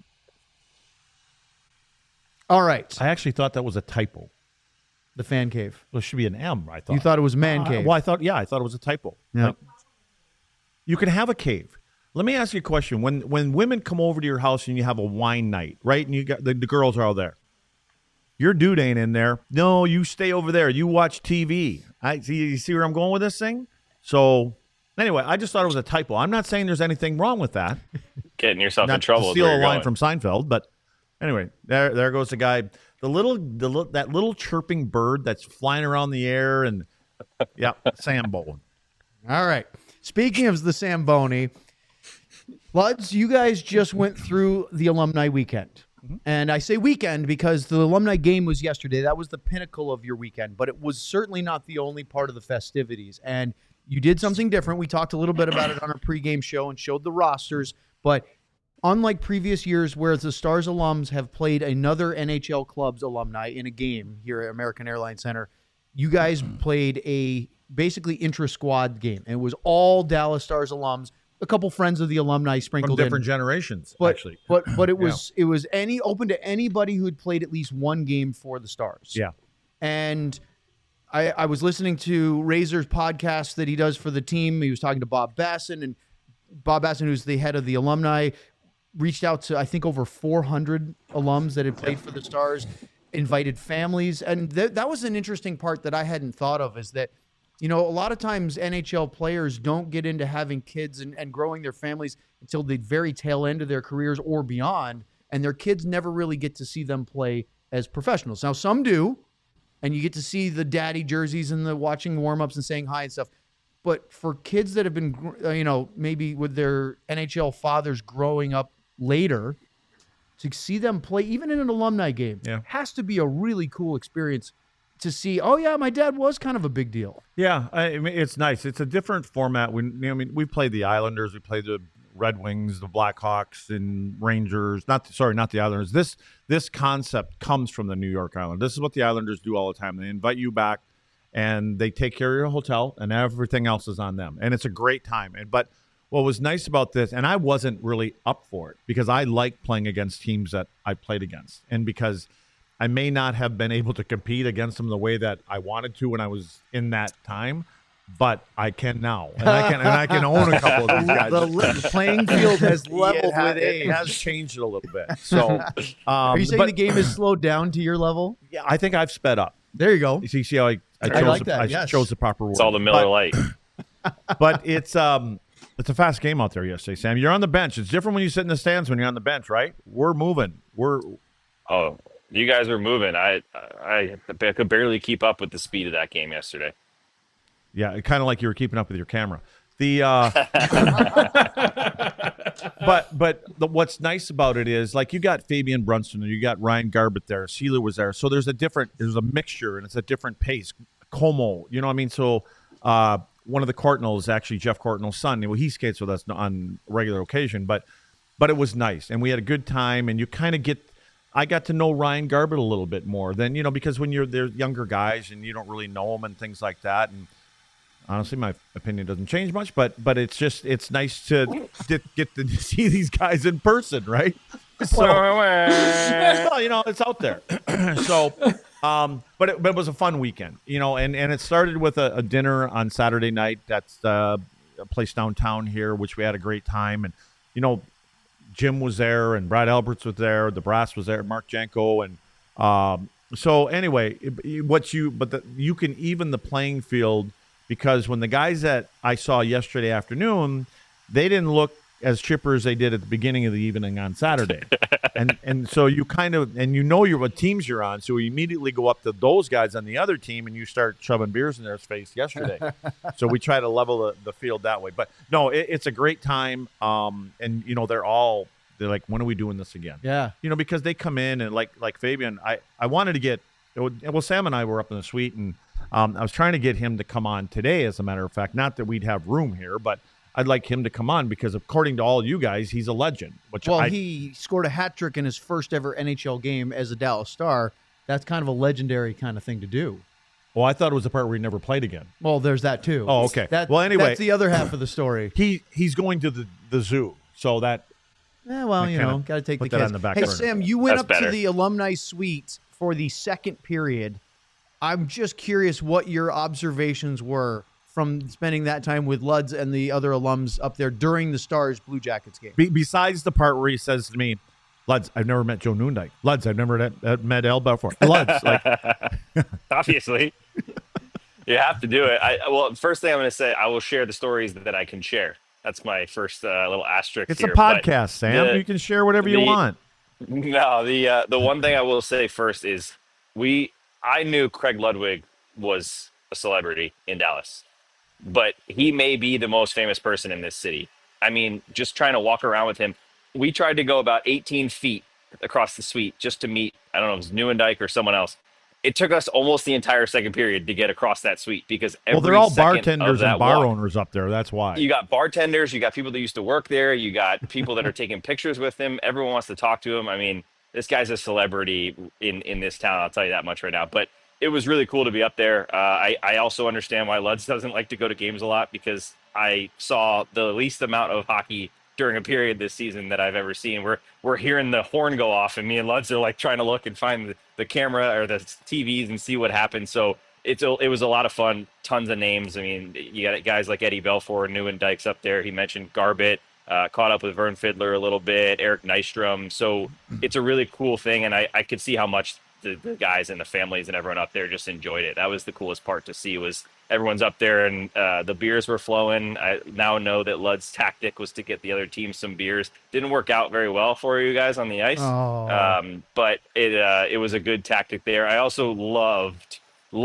All right. I actually thought that was a typo. The fan cave. Well, it should be an M, I thought. You thought it was man cave. Well, I thought it was a typo. Yeah. Like, you can have a cave. Let me ask you a question. When women come over to your house and you have a wine night, right, and you got the girls are all there, your dude ain't in there. No, you stay over there. You watch TV. You see where I'm going with this thing? So, anyway, I just thought it was a typo. I'm not saying there's anything wrong with that. Getting yourself Not in trouble. to is steal where a you're line going. from Seinfeld, but anyway, there goes the guy. That little chirping bird that's flying around the air, and yeah, Sam Bowen. All right. Speaking of the Samboni, Luds, you guys just went through the alumni weekend. And I say weekend because the alumni game was yesterday. That was the pinnacle of your weekend, but it was certainly not the only part of the festivities. And you did something different. We talked a little bit about it on our pregame show and showed the rosters, but unlike previous years where the Stars alums have played another NHL club's alumni in a game here at American Airlines Center, you guys played a basically intra-squad game. And it was all Dallas Stars alums, a couple friends of the alumni sprinkled From different in. generations, But, actually. But it was open to anybody who had played at least one game for the Stars. Yeah. And I was listening to Razor's podcast that he does for the team. He was talking to Bob Basson, and Bob Basson, who's the head of the alumni, reached out to, I think, over 400 alums that had played for the Stars, invited families. And that was an interesting part that I hadn't thought of, is that, you know, a lot of times NHL players don't get into having kids and growing their families until the very tail end of their careers or beyond. And their kids never really get to see them play as professionals. Now, some do, and you get to see the daddy jerseys and the watching warm-ups and saying hi and stuff. But for kids that have been, maybe with their NHL fathers growing up later, to see them play, even in an alumni game, has to be a really cool experience to see, oh, yeah, my dad was kind of a big deal. Yeah, I mean, it's nice. It's a different format. We've played the Islanders. We played the Red Wings, the Blackhawks, and Rangers. Not the Islanders. This concept comes from the New York Islanders. This is what the Islanders do all the time. They invite you back, and they take care of your hotel, and everything else is on them. And it's a great time. But what was nice about this, and I wasn't really up for it because I like playing against teams that I played against, and because I may not have been able to compete against them the way that I wanted to when I was in that time, but I can now, and I can own a couple of these guys. The playing field has leveled with age. It has changed it a little bit. So, are you saying the game has slowed down to your level? Yeah, I think I've sped up. There you go. You see how I chose the proper word. It's all the Miller Lite. But it's a fast game out there yesterday, Sam. You're on the bench. It's different when you sit in the stands when you're on the bench, right? We're moving. Oh, you guys were moving. I could barely keep up with the speed of that game yesterday. Yeah, kind of like you were keeping up with your camera. What's nice about it is, like, you got Fabian Brunson and you got Ryan Garbett there. Sheila was there, so there's a mixture and it's a different pace. Como, you know what I mean? So one of the Courtnells, actually Jeff Courtnell's son, he skates with us on a regular occasion, but it was nice and we had a good time. And you kind of I got to know Ryan Garbett a little bit more than, because when they're younger guys and you don't really know them and things like that. And honestly, my opinion doesn't change much, but it's nice to get to see these guys in person, right? So, well, it's out there. So, but it was a fun weekend, and it started with a dinner on Saturday night. That's a place downtown here, which we had a great time. And, Jim was there and Brad Alberts was there. The Brass was there, Mark Janko. And so anyway, you can even the playing field, because when the guys that I saw yesterday afternoon, they didn't look as chipper as they did at the beginning of the evening on Saturday. and so you what teams you're on. So you immediately go up to those guys on the other team and you start shoving beers in their face yesterday. So we try to level the field that way. But no, it's a great time. And they're like, when are we doing this again? Yeah. Because they come in and like Fabian, I wanted to get, Sam and I were up in the suite and I was trying to get him to come on today, as a matter of fact. Not that we'd have room here, but I'd like him to come on because, according to all you guys, he's a legend. He scored a hat trick in his first ever NHL game as a Dallas Star. That's kind of a legendary kind of thing to do. Well, I thought it was the part where he never played again. Well, there's that too. Oh, okay. Anyway, that's the other half of the story. He's going to the zoo, so that. Yeah, well, got to take the kids. On the back hey, burner. Sam, you went to the alumni suite for the second period. I'm just curious what your observations were from spending that time with Luds and the other alums up there during the Stars Blue Jackets game. Besides the part where he says to me, Luds, I've never met Joe Noondike. Luds, I've never met El before. Luds, obviously, you have to do it. First thing I'm going to say, I will share the stories that I can share. That's my first little asterisk. It's here. A podcast, Sam. You can share whatever you want. No, the one thing I will say first is I knew Craig Ludwig was a celebrity in Dallas, but he may be the most famous person in this city. I mean, just trying to walk around with him. We tried to go about 18 feet across the suite just to meet, I don't know if it was Neuendijk or someone else. It took us almost the entire second period to get across that suite because they're all bartenders and bar owners up there. That's why. You got bartenders, you got people that used to work there, you got people that are taking pictures with him. Everyone wants to talk to him. I mean, this guy's a celebrity in this town. I'll tell you that much right now. But it was really cool to be up there. I also understand why Luds doesn't like to go to games a lot because I saw the least amount of hockey during a period this season that I've ever seen. We're hearing the horn go off, and me and Luds are like trying to look and find the camera or the TVs and see what happened. So it was a lot of fun. Tons of names. I mean, you got guys like Eddie Belfour, Neuendijk's up there. He mentioned Garbett. Caught up with Vern Fiddler a little bit, Eric Nystrom. So it's a really cool thing, and I could see how much the guys and the families and everyone up there just enjoyed it. That was the coolest part to see, was everyone's up there and the beers were flowing. I now know that Lud's tactic was to get the other team some beers. Didn't work out very well for you guys on the ice, but it was a good tactic there. I also loved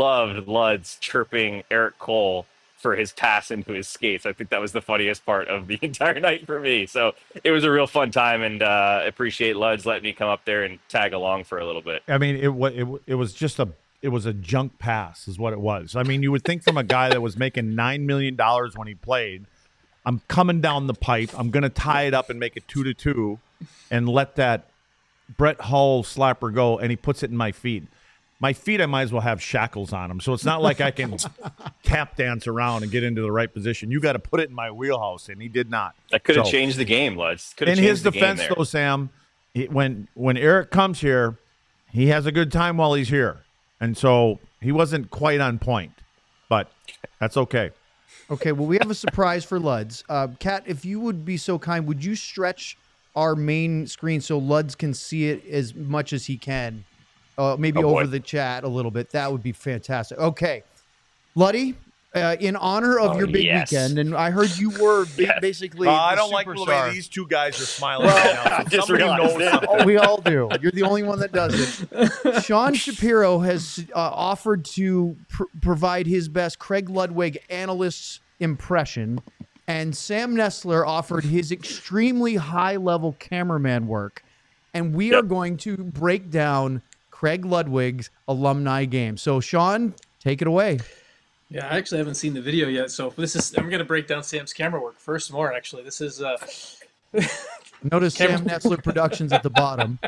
Lud's chirping Eric Cole for his pass into his skates. I think that was the funniest part of the entire night for me. So it was a real fun time, and appreciate Luds letting me come up there and tag along for a little bit. I mean, it was just it was a junk pass is what it was. I mean, you would think from a guy that was making $9 million when he played, I'm coming down the pipe, I'm going to tie it up and make it 2-2 and let that Brett Hull slapper go, and he puts it in my feet. My feet, I might as well have shackles on them. So it's not like I can tap dance around and get into the right position. You got to put it in my wheelhouse, and he did not. That could have changed the game, Luds. In his defense, though, Sam, when Eric comes here, he has a good time while he's here. And so he wasn't quite on point, but that's okay. Okay, well, we have a surprise for Luds. Kat, if you would be so kind, would you stretch our main screen so Luds can see it as much as he can? Maybe over the chat a little bit. That would be fantastic. Okay. Luddy, in honor of your big weekend, and I heard you were basically I don't superstar. like the way these two guys are smiling right now. So somebody knows. Oh, we all do. You're the only one that does it. Sean Shapiro has offered to provide his best Craig Ludwig analyst's impression, and Sam Nestler offered his extremely high-level cameraman work, and we are going to break down Craig Ludwig's alumni game. So, Sean, take it away. Yeah, I actually haven't seen the video yet, so I'm going to break down Sam's camera work first more. Actually, this is Notice Sam Nestler Productions at the bottom.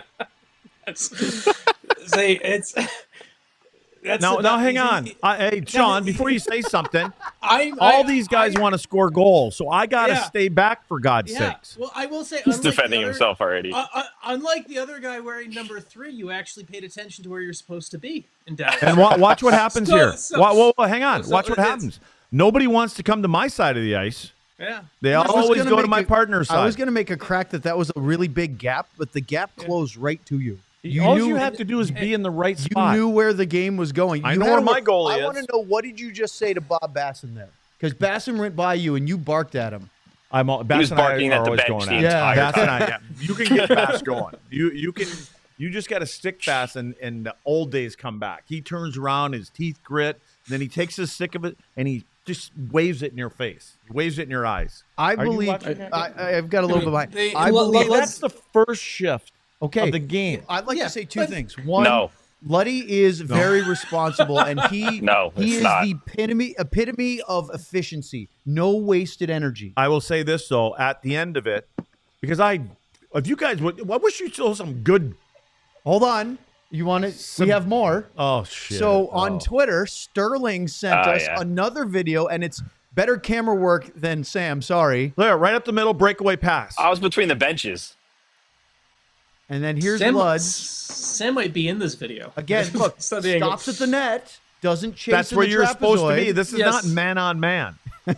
Now, hang on. Hey, Sean, before you say something, these guys want to score goals, so I got to stay back for God's sakes. Well, I will say He's defending himself already. Unlike the other guy wearing number 3, you actually paid attention to where you're supposed to be in Dallas. And watch what happens here. Hang on. Watch what happens. Nobody wants to come to my side of the ice. Yeah. They always go to my partner's side. I was going to make a crack that was a really big gap, but the gap closed right to you. All you have to do is be in the right spot. You knew where the game was going. I know where my goal is. I want to know, what did you just say to Bob Basson there? Because Basson went by you and you barked at him. He was barking at the bench the entire time. You can get Bass going. You just got to stick Bass, and the old days come back. He turns around, his teeth grit, then he takes his stick of it and he just waves it in your face. He waves it in your eyes. I believe I've got a little bit of mine. I believe that's the first shift. Of the game. I'd like to say two things. One, Luddy is very responsible, and he is the epitome of efficiency. No wasted energy. I will say this, though, at the end of it, because if you guys would, I wish you saw some good. Hold on. You want it? We have more. Oh, shit. So on Twitter, Sterling sent us another video, and it's better camera work than Sam. Sorry. There, right up the middle, breakaway pass. I was between the benches. And then here's Lud. Sam might be in this video. Again, look, stops at the net, doesn't chase. That's where you're supposed to be. This is not man on man.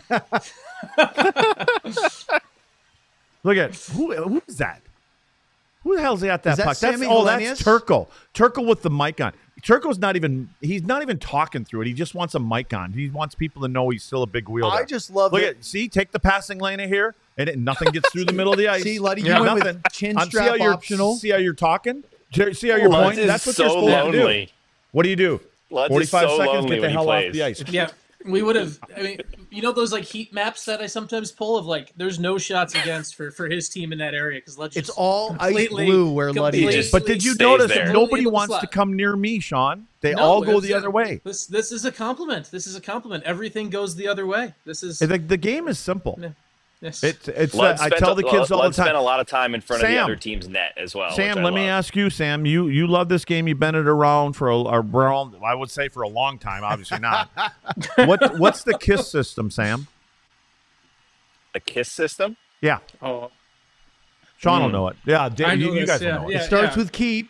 Look at who is that? Who the hell's at that puck? That's Turco. Turco with the mic on. Turco's he's not even talking through it. He just wants a mic on. He wants people to know he's still a big wheel. I just love it. Take the passing lane in here, and nothing gets through the middle of the ice. See, Luddy, you went with chin strap optional. See how you're talking? See how you're pointing? That's what you're supposed to do. What do you do? 45 seconds, get the hell off the ice. Yeah. We would have. I mean, those heat maps that I sometimes pull of there's no shots against for his team in that area because it's all ice blue where Luddy is. But did you notice that nobody wants to come near me, Sean? They all go the other way. This is a compliment. This is a compliment. Everything goes the other way. This is the game is simple. Yeah. Yes. I tell the kids all the time. Spent a lot of time in front of the other team's net as well. Sam, let me ask you, Sam. You love this game. You've been it around I would say for a long time. Obviously not. What's the KISS system, Sam? The KISS system? Yeah. Oh, Sean will know it. Yeah, Dave, you guys will know it. It starts with keep.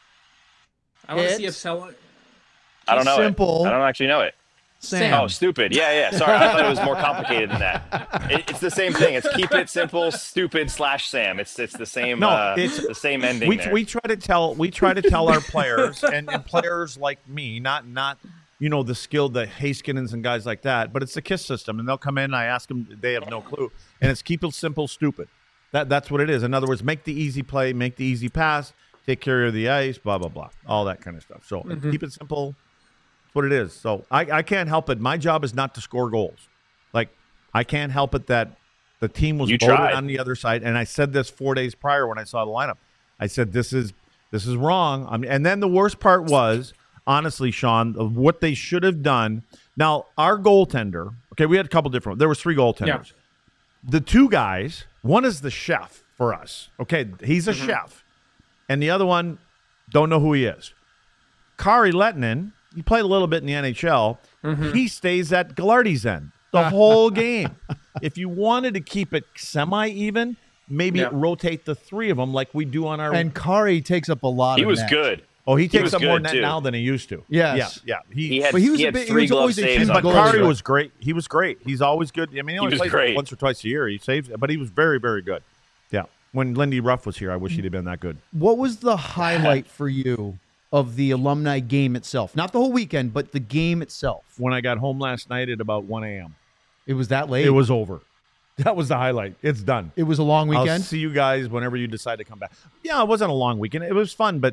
I want to see if Sella. I don't know. Simple. I don't actually know it. Sam. Oh, stupid. Yeah. Sorry, I thought it was more complicated than that. It's the same thing. It's keep it simple, stupid /Sam. It's the same. It's the same ending. We try to tell our players and players like me, not the skilled, the Haskinens and guys like that, but it's the KISS system, and they'll come in. And I ask them, they have no clue, and it's keep it simple, stupid. That's what it is. In other words, make the easy play, make the easy pass, take care of the ice, blah blah blah, all that kind of stuff. So keep it simple. What it is. So I can't help it. My job is not to score goals. I can't help it that the team was voted on the other side. And I said this 4 days prior when I saw the lineup. I said this is wrong. And then the worst part was, honestly, Sean, of what they should have done. Now our goaltender. Okay, we had a couple different. There was 3 goaltenders. Yeah. The 2 guys. One is the chef for us. Okay, he's a chef, and the other one don't know who he is. Kari Lehtinen. He played a little bit in the NHL. He stays at Gallardi's end the whole game. If you wanted to keep it semi-even, maybe rotate the 3 of them like we do on our. And Kari takes up a lot. He was good. Oh, he takes up more net now than he used to. Yes. Yeah. He was always saves. But Kari was great. He was great. He's always good. I mean, he only plays great. once or twice a year. He saves, but he was very, very good. Yeah. When Lindy Ruff was here, I wish he'd have been that good. What was the highlight for you of the alumni game itself? Not the whole weekend, but the game itself. When I got home last night at about 1 a.m. It was that late? It was over. That was the highlight. It's done. It was a long weekend? I'll see you guys whenever you decide to come back. Yeah, it wasn't a long weekend. It was fun, but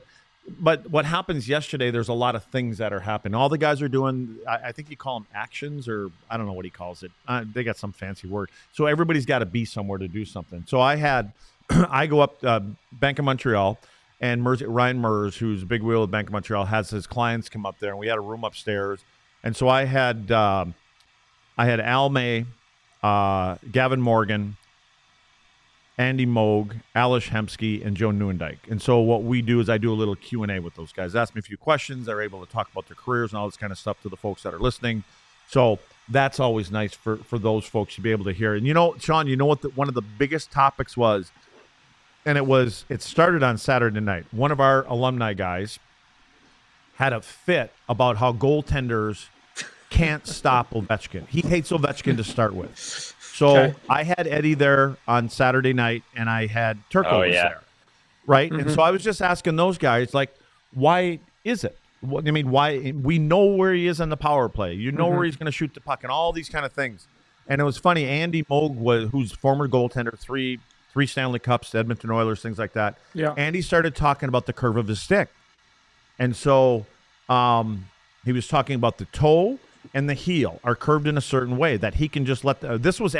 But what happens yesterday, there's a lot of things that are happening. All the guys are doing, I think you call them actions, or I don't know what he calls it. They got some fancy word. So everybody's got to be somewhere to do something. So I go up Bank of Montreal, and Ryan Mers, who's a big wheel at Bank of Montreal, has his clients come up there, and we had a room upstairs. And so I had Al May, Gavin Morgan, Andy Moog, Alish Hemsky, and Joe Newendike. And so what we do is I do a little Q&A with those guys. They ask me a few questions. They're able to talk about their careers and all this kind of stuff to the folks that are listening. So that's always nice for those folks to be able to hear. And, Sean, you know what one of the biggest topics was? And it started on Saturday night. One of our alumni guys had a fit about how goaltenders can't stop Ovechkin. He hates Ovechkin to start with. So I had Eddie there on Saturday night, and I had Turco there, right? Mm-hmm. And so I was just asking those guys, like, why is it? I mean, why? We know where he is on the power play. You know where he's going to shoot the puck and all these kind of things. And it was funny. Andy Moog, who's former goaltender, three Stanley Cups, Edmonton Oilers, things like that. Yeah. Andy started talking about the curve of his stick. And so he was talking about the toe and the heel are curved in a certain way that he can just let this was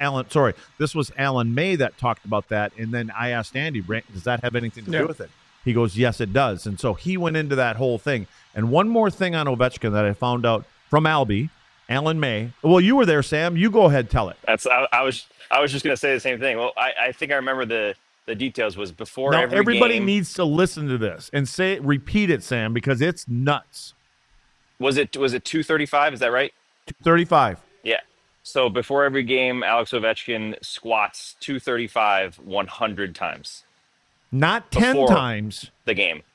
Alan May that talked about that. And then I asked Andy, does that have anything to do with it? He goes, yes, it does. And so he went into that whole thing. And one more thing on Ovechkin that I found out from Alan May. Well, you were there, Sam. You go ahead, tell it. I was just going to say the same thing. Well, I think I remember the details was before now, every everybody game. Needs to listen to this and repeat it, Sam, because it's nuts. Was it 235? Is that right? 235. Yeah. So before every game, Alex Ovechkin squats 235 100 times. Not 10 times. The game.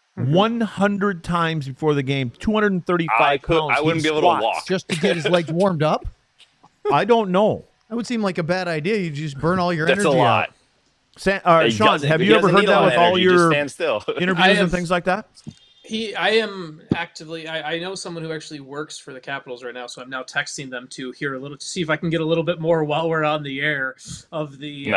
100 times before the game. 235 pounds. I wouldn't be able to walk. Just to get his legs warmed up? I don't know. That would seem like a bad idea. You just burn all your energy out. That's a lot. Sean, have you ever heard that with all your interviews and things like that? I am actively. I know someone who actually works for the Capitals right now, so I'm now texting them to hear a little to see if I can get a little bit more while we're on the air of the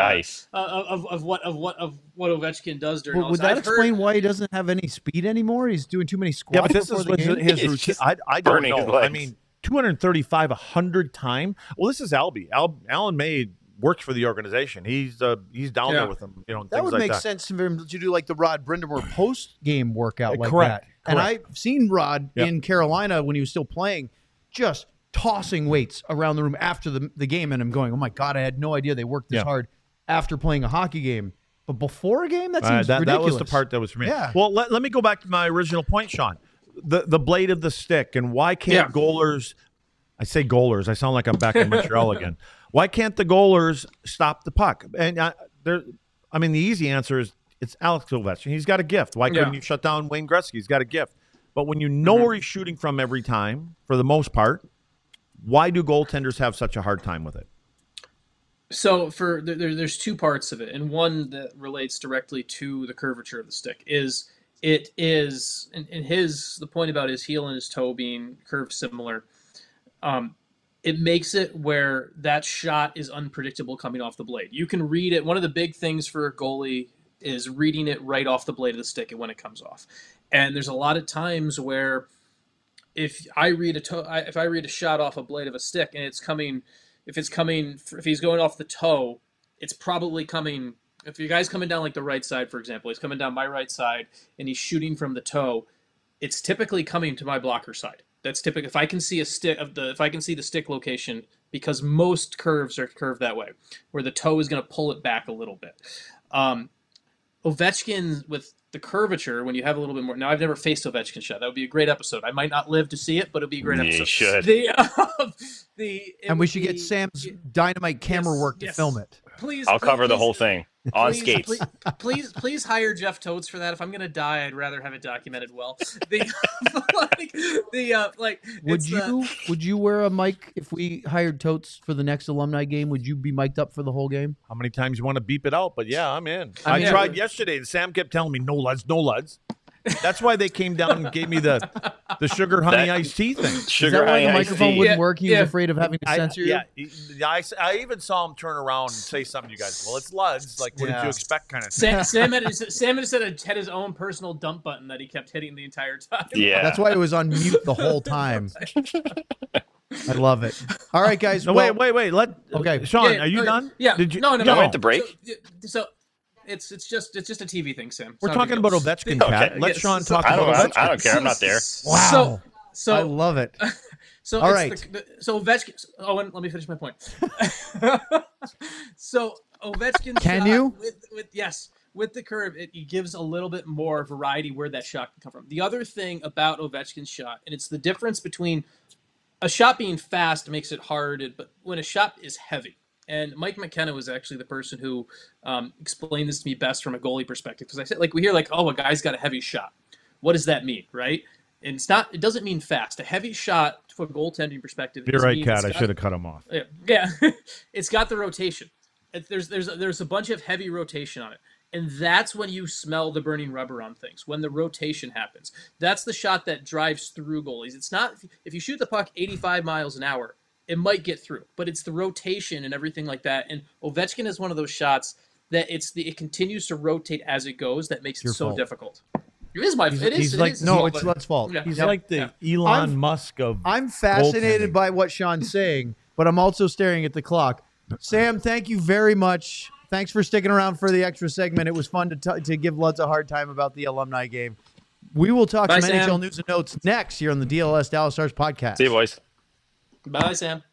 of what Ovechkin does during. Would that explain why he doesn't have any speed anymore? He's doing too many squats. Yeah, but this is his routine. I don't know. I mean, 235 100 times. Well, this is Albie. Alan May works for the organization. He's down there with them. That would make sense for him to do like the Rod Brind'Amour post-game workout like Correct. that. And I've seen Rod in Carolina when he was still playing, just tossing weights around the room after the game, and I'm going, oh my God, I had no idea they worked this hard after playing a hockey game. But before a game, that seems ridiculous. That was the part that was for me. Yeah. Well, let me go back to my original point, Sean. The blade of the stick, and why can't goalers – I say goalers. I sound like I'm back in Montreal again. Why can't the goalers stop the puck? And the easy answer is it's Alex Ovechkin. He's got a gift. Why couldn't you shut down Wayne Gretzky? He's got a gift. But when you know where he's shooting from every time, for the most part, why do goaltenders have such a hard time with it? So there's two parts of it, and one that relates directly to the curvature of the stick is the point about his heel and his toe being curved similar. It makes it where that shot is unpredictable coming off the blade. You can read it. One of the big things for a goalie is reading it right off the blade of the stick and when it comes off. And there's a lot of times where if I read a shot off a blade of a stick and if he's going off the toe, it's probably coming. If your guy's coming down like the right side, for example, he's coming down my right side and he's shooting from the toe, it's typically coming to my blocker side. That's typical. If I can see the stick location, because most curves are curved that way, where the toe is going to pull it back a little bit. Ovechkin with the curvature, when you have a little bit more. Now, I've never faced Ovechkin shot. That would be a great episode. I might not live to see it, but it'd be a great episode. You should. And we should get Sam's dynamite camera work to film it. Please, I'll cover the whole thing on skates. Please hire Jeff Totes for that. If I'm gonna die, I'd rather have it documented well. Would you wear a mic if we hired Totes for the next alumni game? Would you be mic'd up for the whole game? How many times you want to beep it out? But yeah, I'm in. I tried yesterday, and Sam kept telling me no luds. That's why they came down and gave me the sugar honey That- iced tea thing. Is Sugar that why honey the iced microphone tea. wouldn't work? He was Yeah. afraid of having to censor you? I even saw him turn around and say something to you guys. Well, it's Luds. Like, what did Yeah. you expect kind of thing? Sam had his own personal dump button that he kept hitting the entire time. Yeah. That's why it was on mute the whole time. I love it. All right, guys. No, well, wait. Okay. Sean, Yeah, are you okay. done? Yeah. Did you? No. No, we have to break? So it's just a TV thing, Sam. It's We're not a talking big about deal. Ovechkin, Okay. Cat. Let Yes, Sean so- talk I about don't, Ovechkin. I don't care. I'm not there. Wow. So I love it. So All it's right. so Ovechkin. Owen, let me finish my point. So Ovechkin. Can shot you? With the curve, it gives a little bit more variety where that shot can come from. The other thing about Ovechkin's shot, and it's the difference between a shot being fast makes it hard, but when a shot is heavy. And Mike McKenna was actually the person who explained this to me best from a goalie perspective. Because I said, like, we hear like, oh, a guy's got a heavy shot. What does that mean, right? And it doesn't mean fast. A heavy shot, from a goaltending perspective, You're right, means Cat. it's I got- should have cut him off. Yeah, it's got the rotation. There's a bunch of heavy rotation on it, and that's when you smell the burning rubber on things. When the rotation happens, that's the shot that drives through goalies. It's not if you shoot the puck 85 miles an hour, it might get through, but it's the rotation and everything like that. And Ovechkin is one of those shots that it continues to rotate as it goes. That makes it Your so fault. difficult. It is my. It is. he's it like- is, No, but- it's Lut's fault. Yeah. He's Yep. like the Yeah. Elon I'm- Musk of. I'm fascinated goaltending. by what Sean's saying, but I'm also staring at the clock. Sam, thank you very much. Thanks for sticking around for the extra segment. It was fun to give Lutz a hard time about the alumni game. We will talk Bye, some Sam. NHL news and notes next here on the DLS Dallas Stars podcast. See you, boys. Bye, Sam.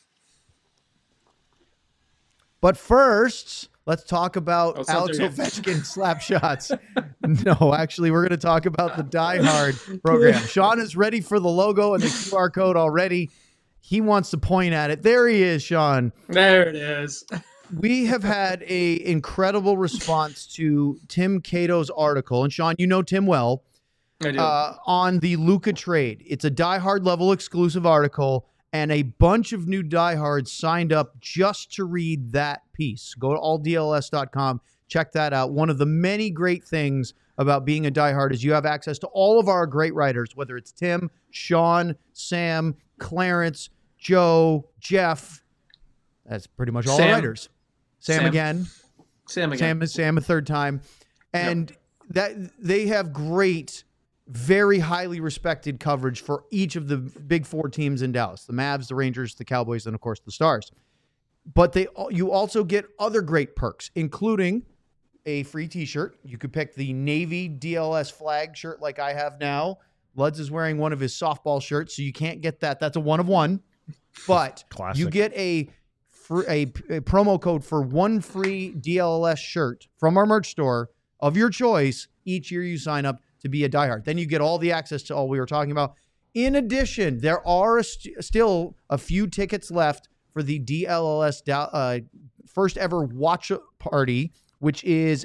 But first, let's talk about Oh, Alex something- Ovechkin slap shots. No, actually, we're going to talk about the Die Hard program. Sean is ready for the logo and the QR code already. He wants to point at it. There he is, Sean. There it is. We have had a incredible response to Tim Cato's article, and Sean, you know Tim well, I do. on the Luka trade. It's a Die Hard level exclusive article, and a bunch of new diehards signed up just to read that piece. Go to alldls.com, check that out. One of the many great things about being a diehard is you have access to all of our great writers, whether it's Tim, Sean, Sam, Clarence, Joe, Jeff. That's pretty much all Sam. the writers. Sam again. Sam again. Sam a third time. And that they have great, very highly respected coverage for each of the big four teams in Dallas: the Mavs, the Rangers, the Cowboys, and of course the Stars. But you also get other great perks, including a free t-shirt. You could pick the Navy DLS flag shirt like I have now. Luds is wearing one of his softball shirts, so you can't get that. That's a one of one. But Classic. you get a promo code for one free DLS shirt from our merch store of your choice each year you sign up to be a diehard. Then you get all the access to all we were talking about. In addition, there are still a few tickets left for the DLS first ever watch party, which is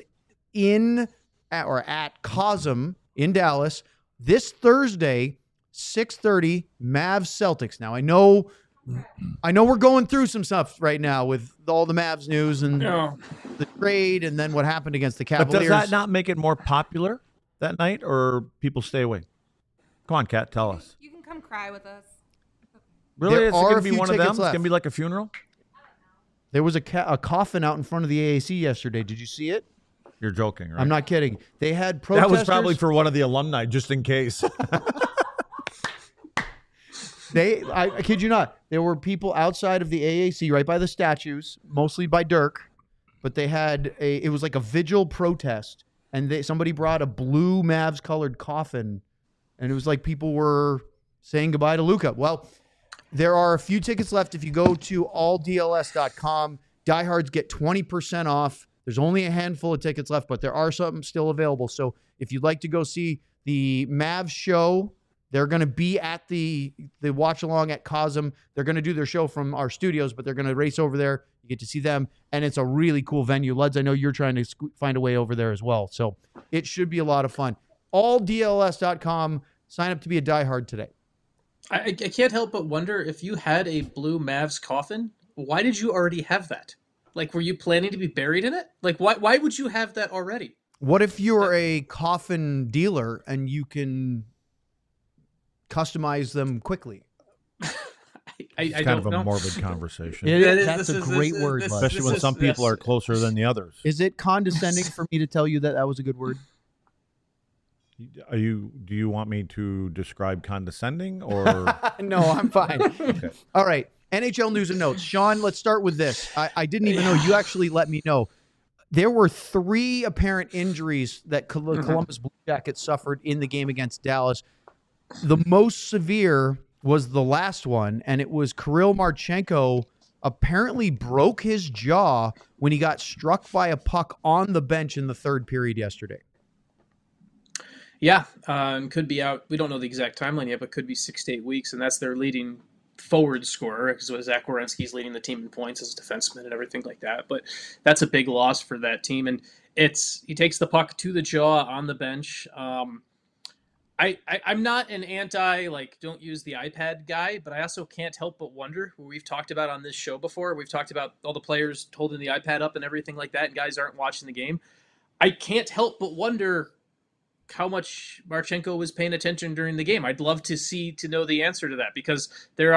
at Cosm in Dallas this Thursday, 6:30, Mavs Celtics. Now I know we're going through some stuff right now with all the Mavs news and No. the trade and then what happened against the But Cavaliers. does that not make it more popular that night, or people stay away? Come on, Kat, tell us. You can come cry with us. Really, There is it are going a to be few one of them? tickets It's left. going to be like a funeral. There was a coffin out in front of the AAC yesterday. Did you see it? You're joking, right? I'm not kidding. They had protesters. That was probably for one of the alumni, just in case. I kid you not. There were people outside of the AAC, right by the statues, mostly by Dirk, but they had it was like a vigil protest, and somebody brought a blue Mavs colored coffin, and it was like people were saying goodbye to Luka. Well, there are a few tickets left. If you go to alldls.com, diehards get 20% off. There's only a handful of tickets left, but there are some still available. So if you'd like to go see the Mavs show, they're going to be at the watch along at Cosm. They're going to do their show from our studios, but they're going to race over there. You get to see them, and it's a really cool venue. Luds, I know you're trying to find a way over there as well. So it should be a lot of fun. Alldls.com. Sign up to be a diehard today. I can't help but wonder if you had a blue Mavs coffin, why did you already have that? Like, were you planning to be buried in it? Like, why would you have that already? What if you're a coffin dealer and you can customize them quickly? I It's kind don't of a know. morbid conversation, That's a great word, Bud. especially when some people are closer than the others. Is it condescending for me to tell you that that was a good word? Do you want me to describe condescending or? No, I'm fine. Okay. All right. NHL news and notes. Sean, let's start with this. I didn't even know. You actually let me know. There were 3 apparent injuries that Columbus Blue Jackets suffered in the game against Dallas. The most severe was the last one, and it was Kirill Marchenko apparently broke his jaw when he got struck by a puck on the bench in the 3rd period yesterday. Yeah, could be out. We don't know the exact timeline yet, but could be 6 to 8 weeks, and that's their leading forward scorer because Zach Werenski's leading the team in points as a defenseman and everything like that. But that's a big loss for that team, and he takes the puck to the jaw on the bench. I'm not an anti don't use the iPad guy, but I also can't help but wonder. We've talked about on this show before. We've talked about all the players holding the iPad up and everything like that, and guys aren't watching the game. I can't help but wonder how much Marchenko was paying attention during the game. I'd love to know the answer to that because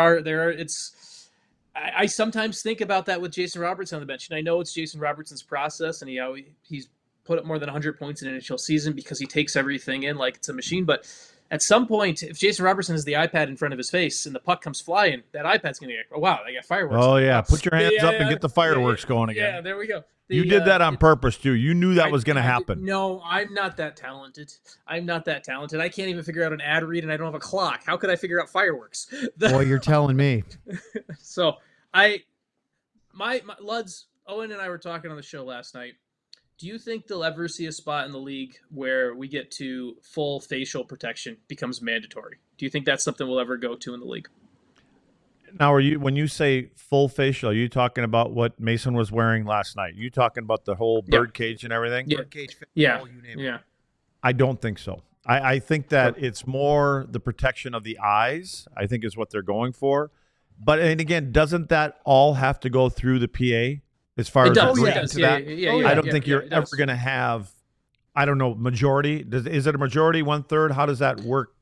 I sometimes think about that with Jason Robertson on the bench, and I know it's Jason Robertson's process, and he's put up more than 100 points in an NHL season because he takes everything in like it's a machine. But at some point, if Jason Robertson has the iPad in front of his face and the puck comes flying, that iPad's going to go, oh, wow, they got fireworks. Oh, yeah. Put your hands up and get the fireworks going again. Yeah, there we go. You did that on purpose, too. You knew that was going to happen. No, I'm not that talented. I can't even figure out an ad read, and I don't have a clock. How could I figure out fireworks? Boy, you're telling me. So, my Luds, Owen and I were talking on the show last night. Do you think they'll ever see a spot in the league where we get to full facial protection becomes mandatory? Do you think that's something we'll ever go to in the league? Now, when you say full facial, are you talking about what Mason was wearing last night? Are you talking about the whole bird cage and everything? Yeah. Bird cage, Yeah. you name it. Yeah. I don't think so. I think that it's more the protection of the eyes, I think is what they're going for. And again, doesn't that all have to go through the PA as far It as does. agreeing It does. to Yeah, that? yeah, I don't think you're it ever does. going to have, I don't know, majority. Is it a majority, 1/3? How does that work?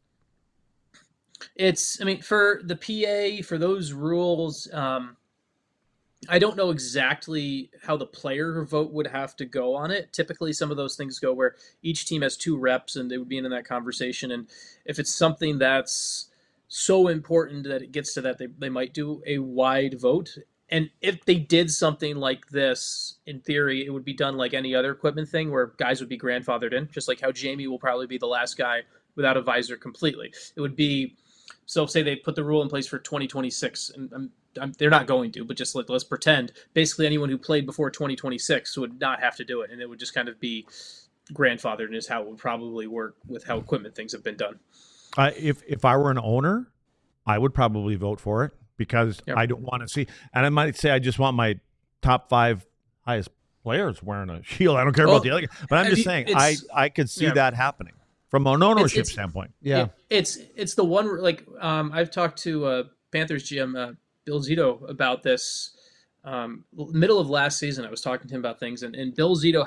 For the PA, for those rules, I don't know exactly how the player vote would have to go on it. Typically, some of those things go where each team has 2 reps and they would be in that conversation. And if it's something that's so important that it gets to that, they might do a wide vote. And if they did something like this, in theory, it would be done like any other equipment thing where guys would be grandfathered in, just like how Jamie will probably be the last guy without a visor completely. It would be, so say they put the rule in place for 2026, and they're not going to, but just let's pretend. Basically, anyone who played before 2026 would not have to do it, and it would just kind of be grandfathered, and is how it would probably work with how equipment things have been done. If I were an owner, I would probably vote for it because I don't want to see, and I might say I just want my top 5 highest players wearing a shield. I don't care about the other guy, but I'm just saying I could see that happening from an ownership standpoint. Yeah. It's the one, I've talked to Panthers GM Bill Zito about this middle of last season. I was talking to him about things, and Bill Zito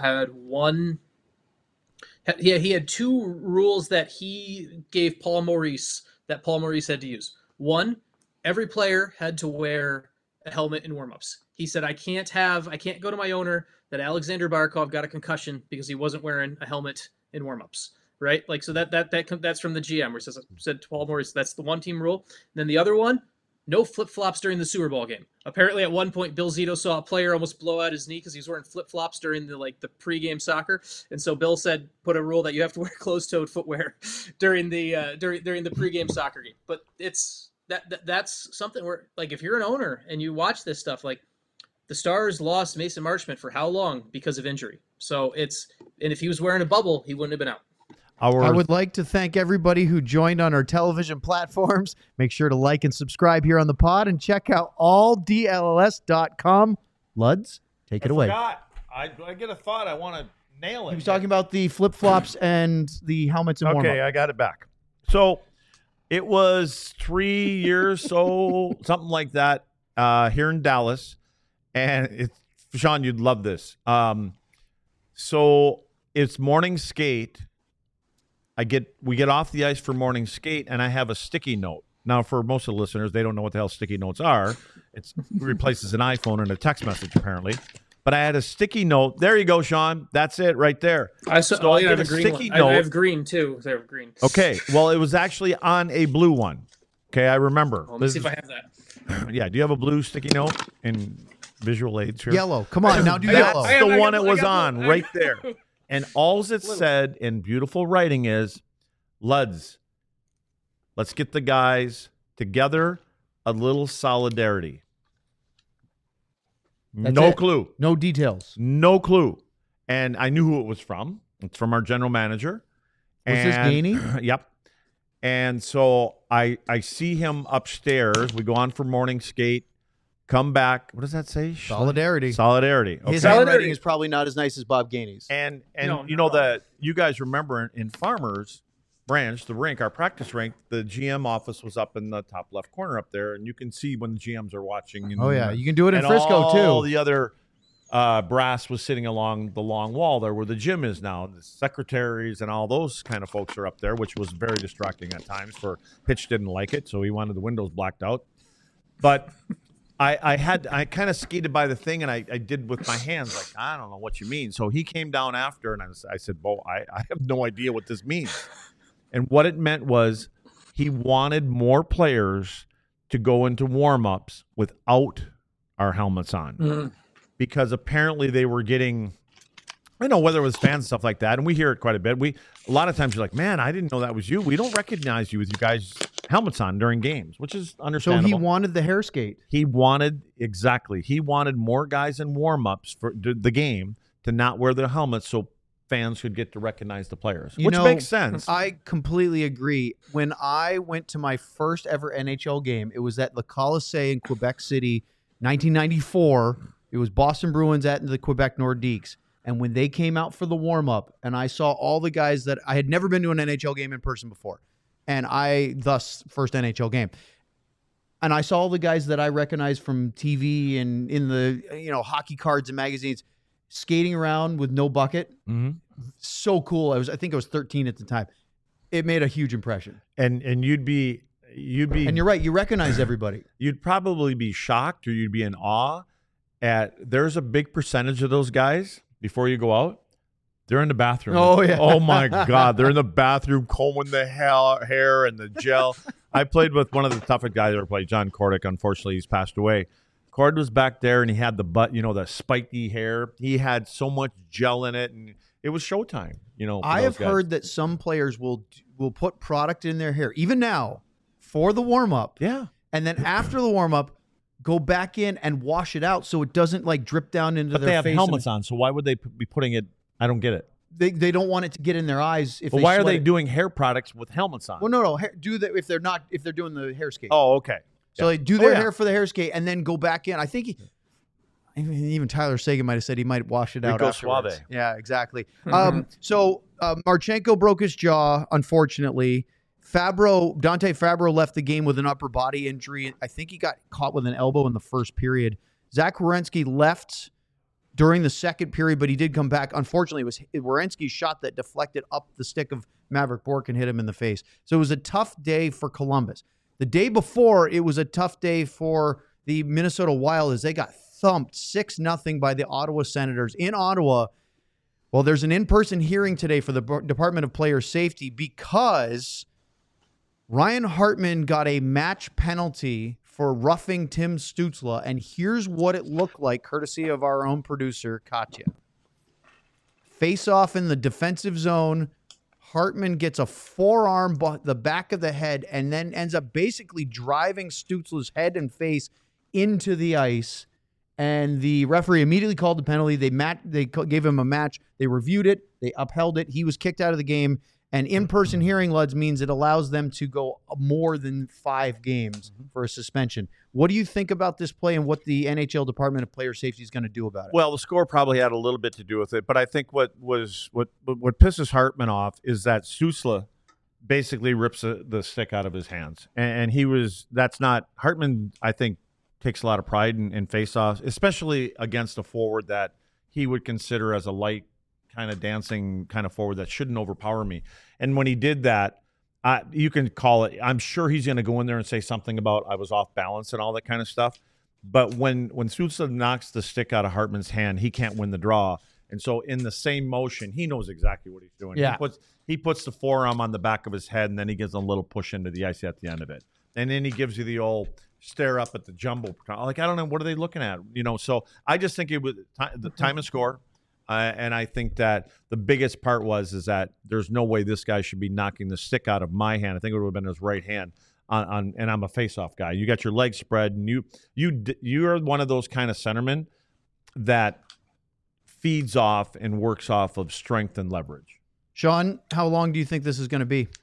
he had 2 rules that he gave Paul Maurice that Paul Maurice had to use. One, every player had to wear a helmet in warmups. He said, I can't go to my owner that Alexander Barkov got a concussion because he wasn't wearing a helmet in warmups. Right? So that's from the GM where it said to Paul Maurice, that's the one team rule. And then the other one, no flip-flops during the Super Bowl game. Apparently at one point, Bill Zito saw a player almost blow out his knee because he was wearing flip-flops during the pregame soccer. And so Bill said, put a rule that you have to wear closed-toed footwear during the during the pregame soccer game. But that's something where, if you're an owner and you watch this stuff, the Stars lost Mason Marchment for how long because of injury? So and if he was wearing a bubble, he wouldn't have been out. I would like to thank everybody who joined on our television platforms. Make sure to like and subscribe here on the pod and check out alldlls.com. Luds, take it away. I get a thought. I want to nail it. He was talking about the flip-flops and the helmets and warm-up. Okay, I got it back. So it was 3 years, something like that, here in Dallas. And Sean, you'd love this. So it's morning skate. We get off the ice for morning skate, and I have a sticky note. Now, for most of the listeners, they don't know what the hell sticky notes are. It replaces an iPhone and a text message, apparently. But I had a sticky note. There you go, Sean. That's it right there. I have a green sticky one. note. I have green too. I have green. Okay. Well, it was actually on a blue one. Okay, I remember. Let me see if I have that. Yeah. Do you have a blue sticky note in visual aids here? Yellow. Come on, now do yellow. That's the one it was on right there. And all it said in beautiful writing is, Luds, let's get the guys together, a little solidarity. That's no it. clue. No details. No clue. And I knew who it was from. It's from our general manager. Was this Gainey? Yep. And so I see him upstairs. We go on for morning skate. Come back. What does that say? Solidarity. Solidarity. Okay. His handwriting is probably not as nice as Bob Gainey's. And No, you know that you guys remember in Farmers Branch, the rink, our practice rink, the GM office was up in the top left corner up there, and you can see when the GMs are watching. Oh yeah, you can do it in and Frisco all too. the other brass was sitting along the long wall there where the gym is now. The secretaries and all those kind of folks are up there, which was very distracting at times. For Pitch didn't like it, so he wanted the windows blacked out. But I kind of skated by the thing, and I did with my hands, like, I don't know what you mean. So he came down after, and I said, Bo, I have no idea what this means. And what it meant was he wanted more players to go into warm-ups without our helmets on. Because apparently they were getting, I don't know whether it was fans and stuff like that, and we hear it quite a bit. A lot of times you're like, man, I didn't know that was you. We don't recognize you with you guys' helmets on during games, which is So understandable. he wanted the hair skate. He wanted more guys in warm-ups for the game to not wear their helmets so fans could get to recognize the players, which makes sense. I completely agree. When I went to my first ever NHL game, it was at Le Colisée in Quebec City, 1994. It was Boston Bruins at the Quebec Nordiques. And when they came out for the warm-up, and I saw all the guys that I had never been to an NHL game in person before, and first NHL game. And I saw all the guys that I recognized from TV and in the hockey cards and magazines skating around with no bucket. Mm-hmm. So cool. I think I was 13 at the time. It made a huge impression. And you'd be And you're right, you recognize everybody. You'd probably be shocked, or you'd be in awe at there's a big percentage of those guys before you go out. They're in the bathroom. Oh, yeah. Oh, my God. They're in the bathroom combing the hair and the gel. I played with one of the toughest guys I ever played, John Kordick. Unfortunately, he's passed away. Cord was back there, and he had the spiky hair. He had so much gel in it, and it was showtime. I have heard that some players will put product in their hair, even now, for the warm-up. Yeah. And then after the warm-up, go back in and wash it out so it doesn't drip down into their face. But they have helmets on, so why would they be putting it? I don't get it. They don't want it to get in their eyes. But why are they doing hair products with helmets on? Well, no. Do that if they're doing the hair skate. Oh, okay. So they do their hair for the hair skate and then go back in. I think even Tyler Seguin might have said he might wash it out afterwards. Suave. Yeah, exactly. So Marchenko broke his jaw, unfortunately. Dante Fabro left the game with an upper body injury. I think he got caught with an elbow in the first period. Zach Werenski left during the second period, but he did come back. Unfortunately, it was Werenski's shot that deflected up the stick of Maverick Bourque and hit him in the face. So it was a tough day for Columbus. The day before, it was a tough day for the Minnesota Wild as they got thumped 6-0 by the Ottawa Senators in Ottawa. Well, there's an in-person hearing today for the Department of Player Safety because Ryan Hartman got a match penalty for roughing Tim Stützle, and here's what it looked like, courtesy of our own producer, Katya. Face off in the defensive zone. Hartman gets a forearm, the back of the head, and then ends up basically driving Stützle's head and face into the ice. And the referee immediately called the penalty. They gave him a match. They reviewed it. They upheld it. He was kicked out of the game. And in-person hearing, Luds, means it allows them to go more than 5 games for a suspension. What do you think about this play and what the NHL Department of Player Safety is going to do about it? Well, the score probably had a little bit to do with it, but I think what pisses Hartman off is that Stützle basically rips the stick out of his hands, and Hartman. I think takes a lot of pride in face-offs, especially against a forward that he would consider as a light kind of dancing kind of forward that shouldn't overpower me. And when he did that, you can call it. I'm sure he's going to go in there and say something about I was off balance and all that kind of stuff. But when Stützle knocks the stick out of Hartman's hand, he can't win the draw. And so in the same motion, he knows exactly what he's doing. Yeah. He puts the forearm on the back of his head, and then he gives a little push into the ice at the end of it. And then he gives you the old stare up at the jumbo. Like, I don't know, what are they looking at? So I just think it was the time and score. And I think that the biggest part is that there's no way this guy should be knocking the stick out of my hand. I think it would have been his right hand on and I'm a face-off guy. You got your legs spread, and you are one of those kind of centermen that feeds off and works off of strength and leverage. Sean, how long do you think this is going to be?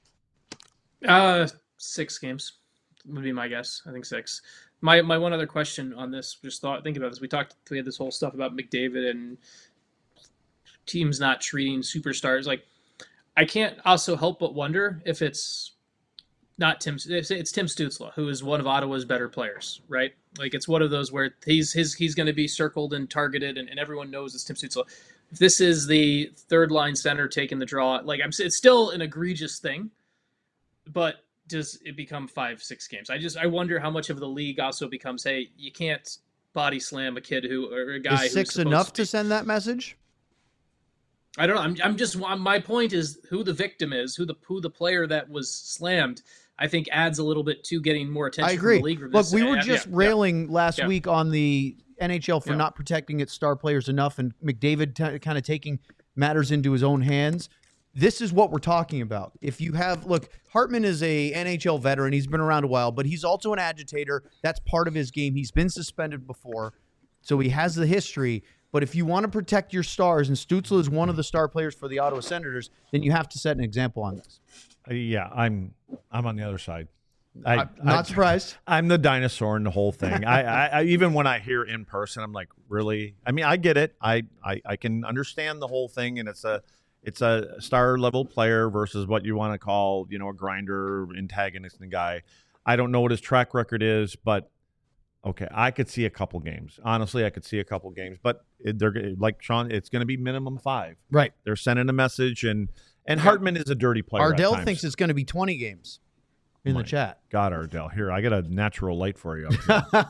6 games would be my guess. I think 6. My one other question on this, think about this. We had this whole stuff about McDavid and teams not treating superstars. Like, I can't also help but wonder if it's not Tim. It's Tim Stützle, who is one of Ottawa's better players, right? Like, it's one of those where he's going to be circled and targeted, and everyone knows it's Tim Stützle. If this is the third line center taking the draw, it's still an egregious thing, but does it become 5-6 games? I wonder how much of the league also becomes, hey, you can't body slam a kid or a guy. Is 6 enough to send that message? I don't know. My point is who the victim is, who the player that was slammed, I think adds a little bit to getting more attention. I agree. From the league. Look, we were just railing last week on the NHL for not protecting its star players enough, and McDavid kind of taking matters into his own hands. This is what we're talking about. If you have, look, Hartman is a NHL veteran. He's been around a while, but he's also an agitator. That's part of his game. He's been suspended before, so he has the history. But if you want to protect your stars, and Stützle is one of the star players for the Ottawa Senators, then you have to set an example on this. Yeah, I'm on the other side. I'm not surprised. I'm the dinosaur in the whole thing. I even when I hear in person, I'm like, really? I mean, I get it. I can understand the whole thing, and it's a star level player versus what you want to call, a grinder, antagonist and guy. I don't know what his track record is, but okay, I could see a couple games. Honestly, I could see a couple games, but they're like Sean. It's going to be minimum 5. Right. They're sending a message, and Hartman is a dirty player. Ardell thinks it's going to be 20 games in the chat. God, Ardell, here I got a natural light for you.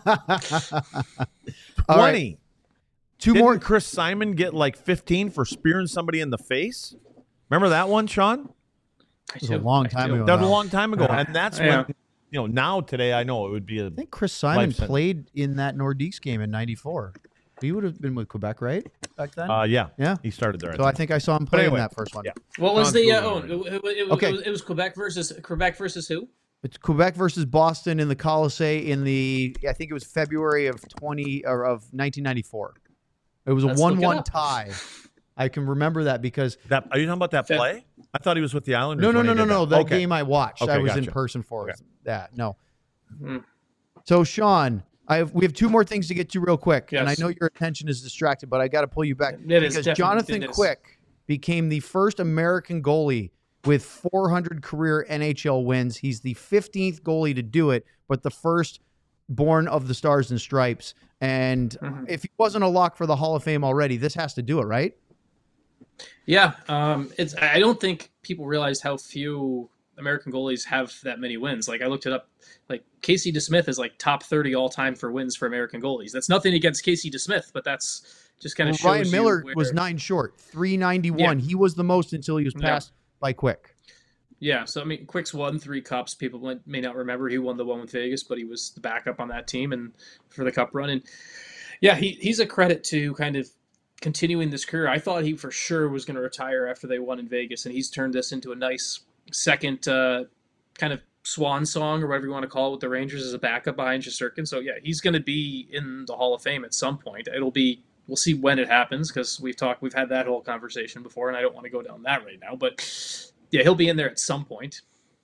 20. Right. Didn't Chris Simon get like 15 for spearing somebody in the face? Remember that one, Sean? It was a long time ago. That was a long time ago, and that's when. Now today I know it would be I think Chris Simon played in that Nordiques game in '94. He would have been with Quebec, right? Back then? Yeah. He started there. So I think I saw him play in that first one. Yeah. What was it was Quebec versus who? It's Quebec versus Boston in the Colisée I think it was February of 1994. It was a 1-1 tie. I can remember that because are you talking about that play? I thought he was with the Islanders. No. That game I watched. I was in person for that. No. Mm-hmm. So Sean, we have 2 more things to get to real quick, yes. and I know your attention is distracted, but I got to pull you back because Jonathan Quick became the first American goalie with 400 career NHL wins. He's the 15th goalie to do it, but the first born of the Stars and Stripes. And if he wasn't a lock for the Hall of Fame already, this has to do it, right? Yeah, I don't think people realize how few American goalies have that many wins. Like, I looked it up. Like, Casey DeSmith is like top 30 all time for wins for American goalies. That's nothing against Casey DeSmith, but that's just kind of shows Ryan Miller was 9 short, 391. Yeah. He was the most until he was passed by Quick. Yeah, so I mean, Quick's won 3 cups. People may not remember he won the one with Vegas, but he was the backup on that team and for the cup run. And yeah, he's a credit to kind of continuing this career. I thought he for sure was going to retire after they won in Vegas, and he's turned this into a nice second kind of swan song or whatever you want to call it with the Rangers as a backup behind Shesterkin. So yeah, he's going to be in the Hall of Fame at some point. We'll see when it happens because we've had that whole conversation before, and I don't want to go down that right now. But yeah, he'll be in there at some point.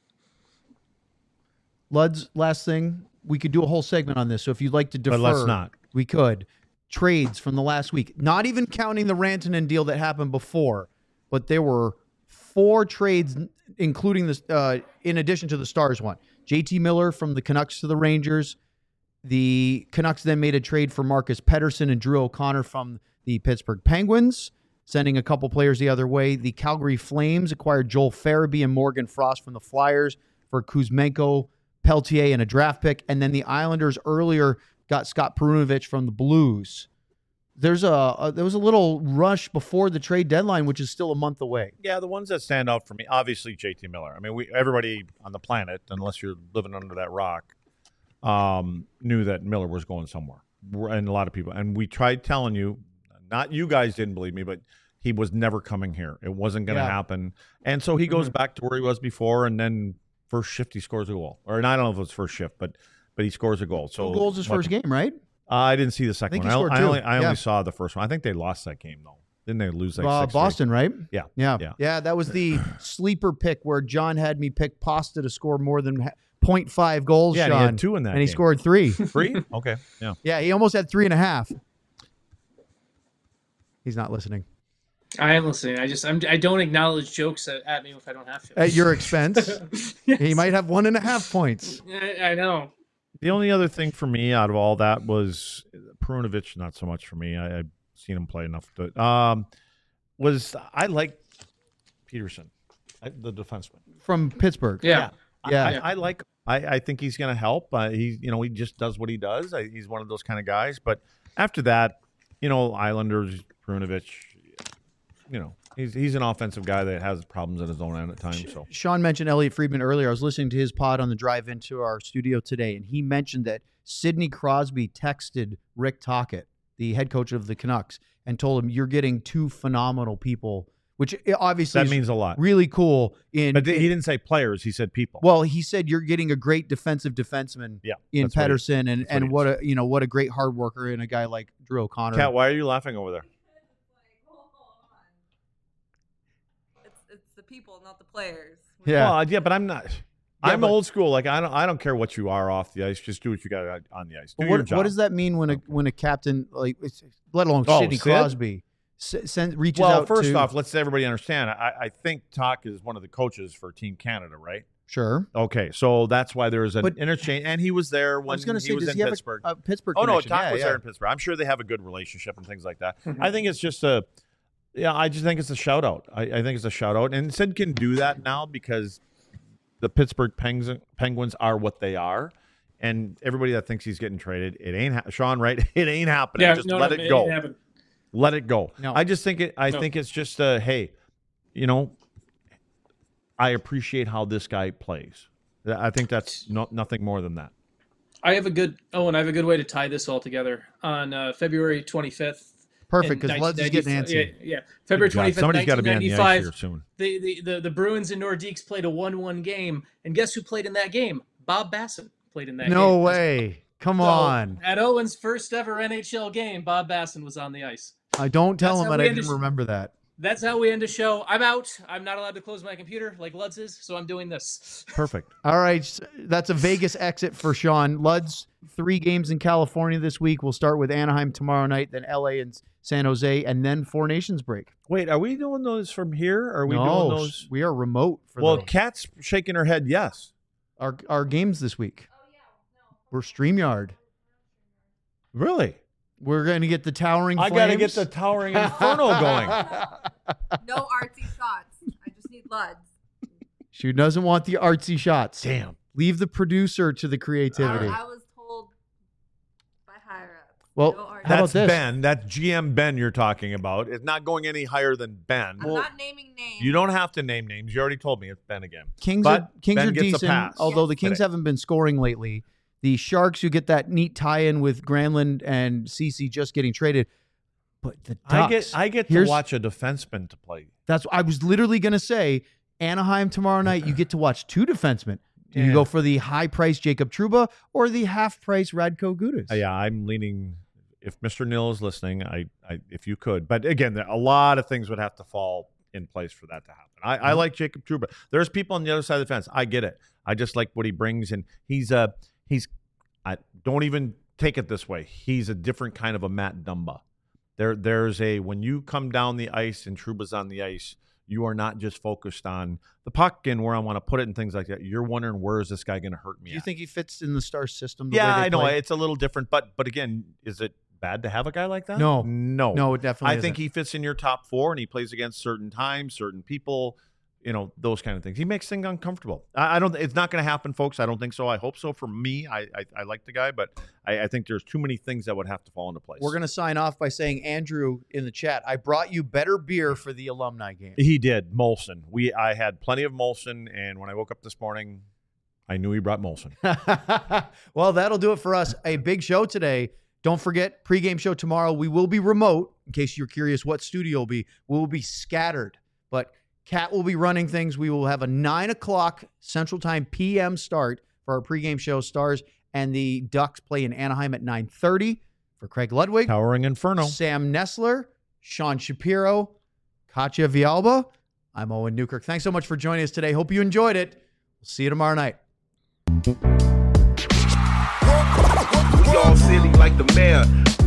Luds, last thing, we could do a whole segment on this. So if you'd like to defer, but let's not. We could. Trades from the last week, not even counting the Rantanen deal that happened before, but there were 4 trades, including this, in addition to the Stars one. JT Miller from the Canucks to the Rangers. The Canucks then made a trade for Marcus Pettersson and Drew O'Connor from the Pittsburgh Penguins. sending a couple players the other way. The Calgary Flames acquired Joel Farabee and Morgan Frost from the Flyers for Kuzmenko, Peltier, and a draft pick. And then the Islanders earlier got Scott Perunovich from the Blues. There was a little rush before the trade deadline, which is still a month away. Yeah, the ones that stand out for me, obviously JT Miller. I mean, everybody on the planet, unless you're living under that rock, knew that Miller was going somewhere, and a lot of people. And we tried telling you, not you guys didn't believe me, but he was never coming here. It wasn't going to happen. And so he goes back to where he was before, and then first shift he scores a goal. Or and I don't know if it was first shift, but he scores a goal. So 2 goals his first game, right? I didn't see the second I think one. he scored 2. I only saw the first one. I think they lost that game, though. Didn't they lose like 6-3? Boston, right? Yeah. Yeah, that was the sleeper pick where John had me pick Pasta to score more than 0.5 goals, Yeah, Sean. and he had 2 in that and he game. scored 3. 3? Okay, yeah. Yeah, he almost had 3.5. He's not listening. I am listening. I don't acknowledge jokes at me if I don't have to. At your expense. Yes. He might have 1.5 points. I know. The only other thing for me out of all that was Perunovich, not so much for me. I've seen him play enough. But I like Peterson, the defenseman. From Pittsburgh. Yeah. I think he's going to help. He just does what he does. He's one of those kind of guys. But after that, Islanders, Perunovich, he's an offensive guy that has problems at his own end at times. So Sean mentioned Elliot Friedman earlier. I was listening to his pod on the drive into our studio today, and he mentioned that Sidney Crosby texted Rick Tocchet, the head coach of the Canucks, and told him, "You're getting 2 phenomenal people," which obviously that means a lot. Really cool. But he didn't say players; he said people. Well, he said you're getting a great defensive defenseman in Pettersson, and what a great hard worker in a guy like Drew O'Connor. Kat, why are you laughing over there? It's the people, not the players. Yeah, well, but I'm not. I'm old school. Like I don't care what you are off the ice. Just do what you got on the ice. Do your job. What does that mean when a captain, like, let alone Sidney Sid? Crosby, reaches out? Well, first off, let's everybody understand. I think Talk is one of the coaches for Team Canada, right? Sure. Okay, so that's why there's an interchange, and he was there when he was in Pittsburgh. A Pittsburgh. Oh no, connection? Talk was there in Pittsburgh. I'm sure they have a good relationship and things like that. I think it's just I just think it's a shout out. I think it's a shout out, and Sid can do that now because the Pittsburgh Penguins are what they are, and everybody that thinks he's getting traded, it ain't Sean, right? It ain't happening. Yeah, just let it go. Let it go. No. I just think it. I think it's just hey, I appreciate how this guy plays. I think that's nothing more than that. I have a good way to tie this all together. On February 25th. Perfect, because Luds is getting antsy. Yeah. February 25th, Somebody's got to be on the ice 1995. here soon. The Bruins and Nordiques played a 1-1 game, and guess who played in that game? Bob Basson played in that game. No way. Come on. At Owen's first ever NHL game, Bob Basson was on the ice. I don't tell That's him how that we I didn't remember that. That's how we end a show. I'm out. I'm not allowed to close my computer like Luds is, so I'm doing this. Perfect. All right. That's a Vegas exit for Sean. Luds, 3 games in California this week. We'll start with Anaheim tomorrow night, then LA and San Jose, and then 4 Nations break. Wait, are we doing those from here? Or are we doing those? We are remote for Well, those. Kat's shaking her head yes. Our games this week. Oh yeah, no. We're StreamYard. Really? We're going to get the Towering I Flames. got to get the Towering Inferno going. No artsy shots. I just need Luds. She doesn't want the artsy shots. Damn. Leave the producer to the creativity. I was told by higher ups. Well, no artsy. how about That's this? Ben. That's GM Ben you're talking about. It's not going any higher than Ben. I'm not naming names. You don't have to name names. You already told me it's Ben again. Kings But are Ben gets a decent, pass although the Kings today. haven't been scoring lately. The Sharks, you get that neat tie-in with Granlund and Ceci just getting traded. But the Ducks, I get to here's- watch a defenseman to play. That's I was literally going to say Anaheim tomorrow night. You get to watch 2 defensemen. Do you Yeah. go for the high-price Jacob Trouba or the half-price Radko Gudas? Yeah, I'm leaning. If Mr. Neal is listening, I if you could, but again, a lot of things would have to fall in place for that to happen. I like Jacob Trouba. There's people on the other side of the fence. I get it. I just like what he brings, and he's. I don't even take it this way. He's a different kind of a Matt Dumba. There's when you come down the ice and Trouba's on the ice, you are not just focused on the puck and where I want to put it and things like that. You're wondering, where is this guy going to hurt me? Do you think he fits in the Star system? Yeah, I know it's a little different, but again, is it bad to have a guy like that? No, no, it definitely I think isn't. he fits in your top 4, and he plays against certain times, certain people, those kind of things. He makes things uncomfortable. I don't. It's not going to happen, folks. I don't think so. I hope so. For me, I like the guy, but I think there's too many things that would have to fall into place. We're going to sign off by saying, Andrew in the chat, I brought you better beer for the alumni game. He did. Molson. I had plenty of Molson, and when I woke up this morning, I knew he brought Molson. Well, that'll do it for us. A big show today. Don't forget, pregame show tomorrow. We will be remote, in case you're curious what studio will be. We will be scattered, but Kat will be running things. We will have a 9 o'clock Central Time p.m. start for our pregame show. Stars and the Ducks play in Anaheim at 9:30. For Craig Ludwig, Towering Inferno, Sam Nessler, Sean Shapiro, Katya Vialba, I'm Owen Newkirk. Thanks so much for joining us today. Hope you enjoyed it. We'll see you tomorrow night. We all silly like the mayor.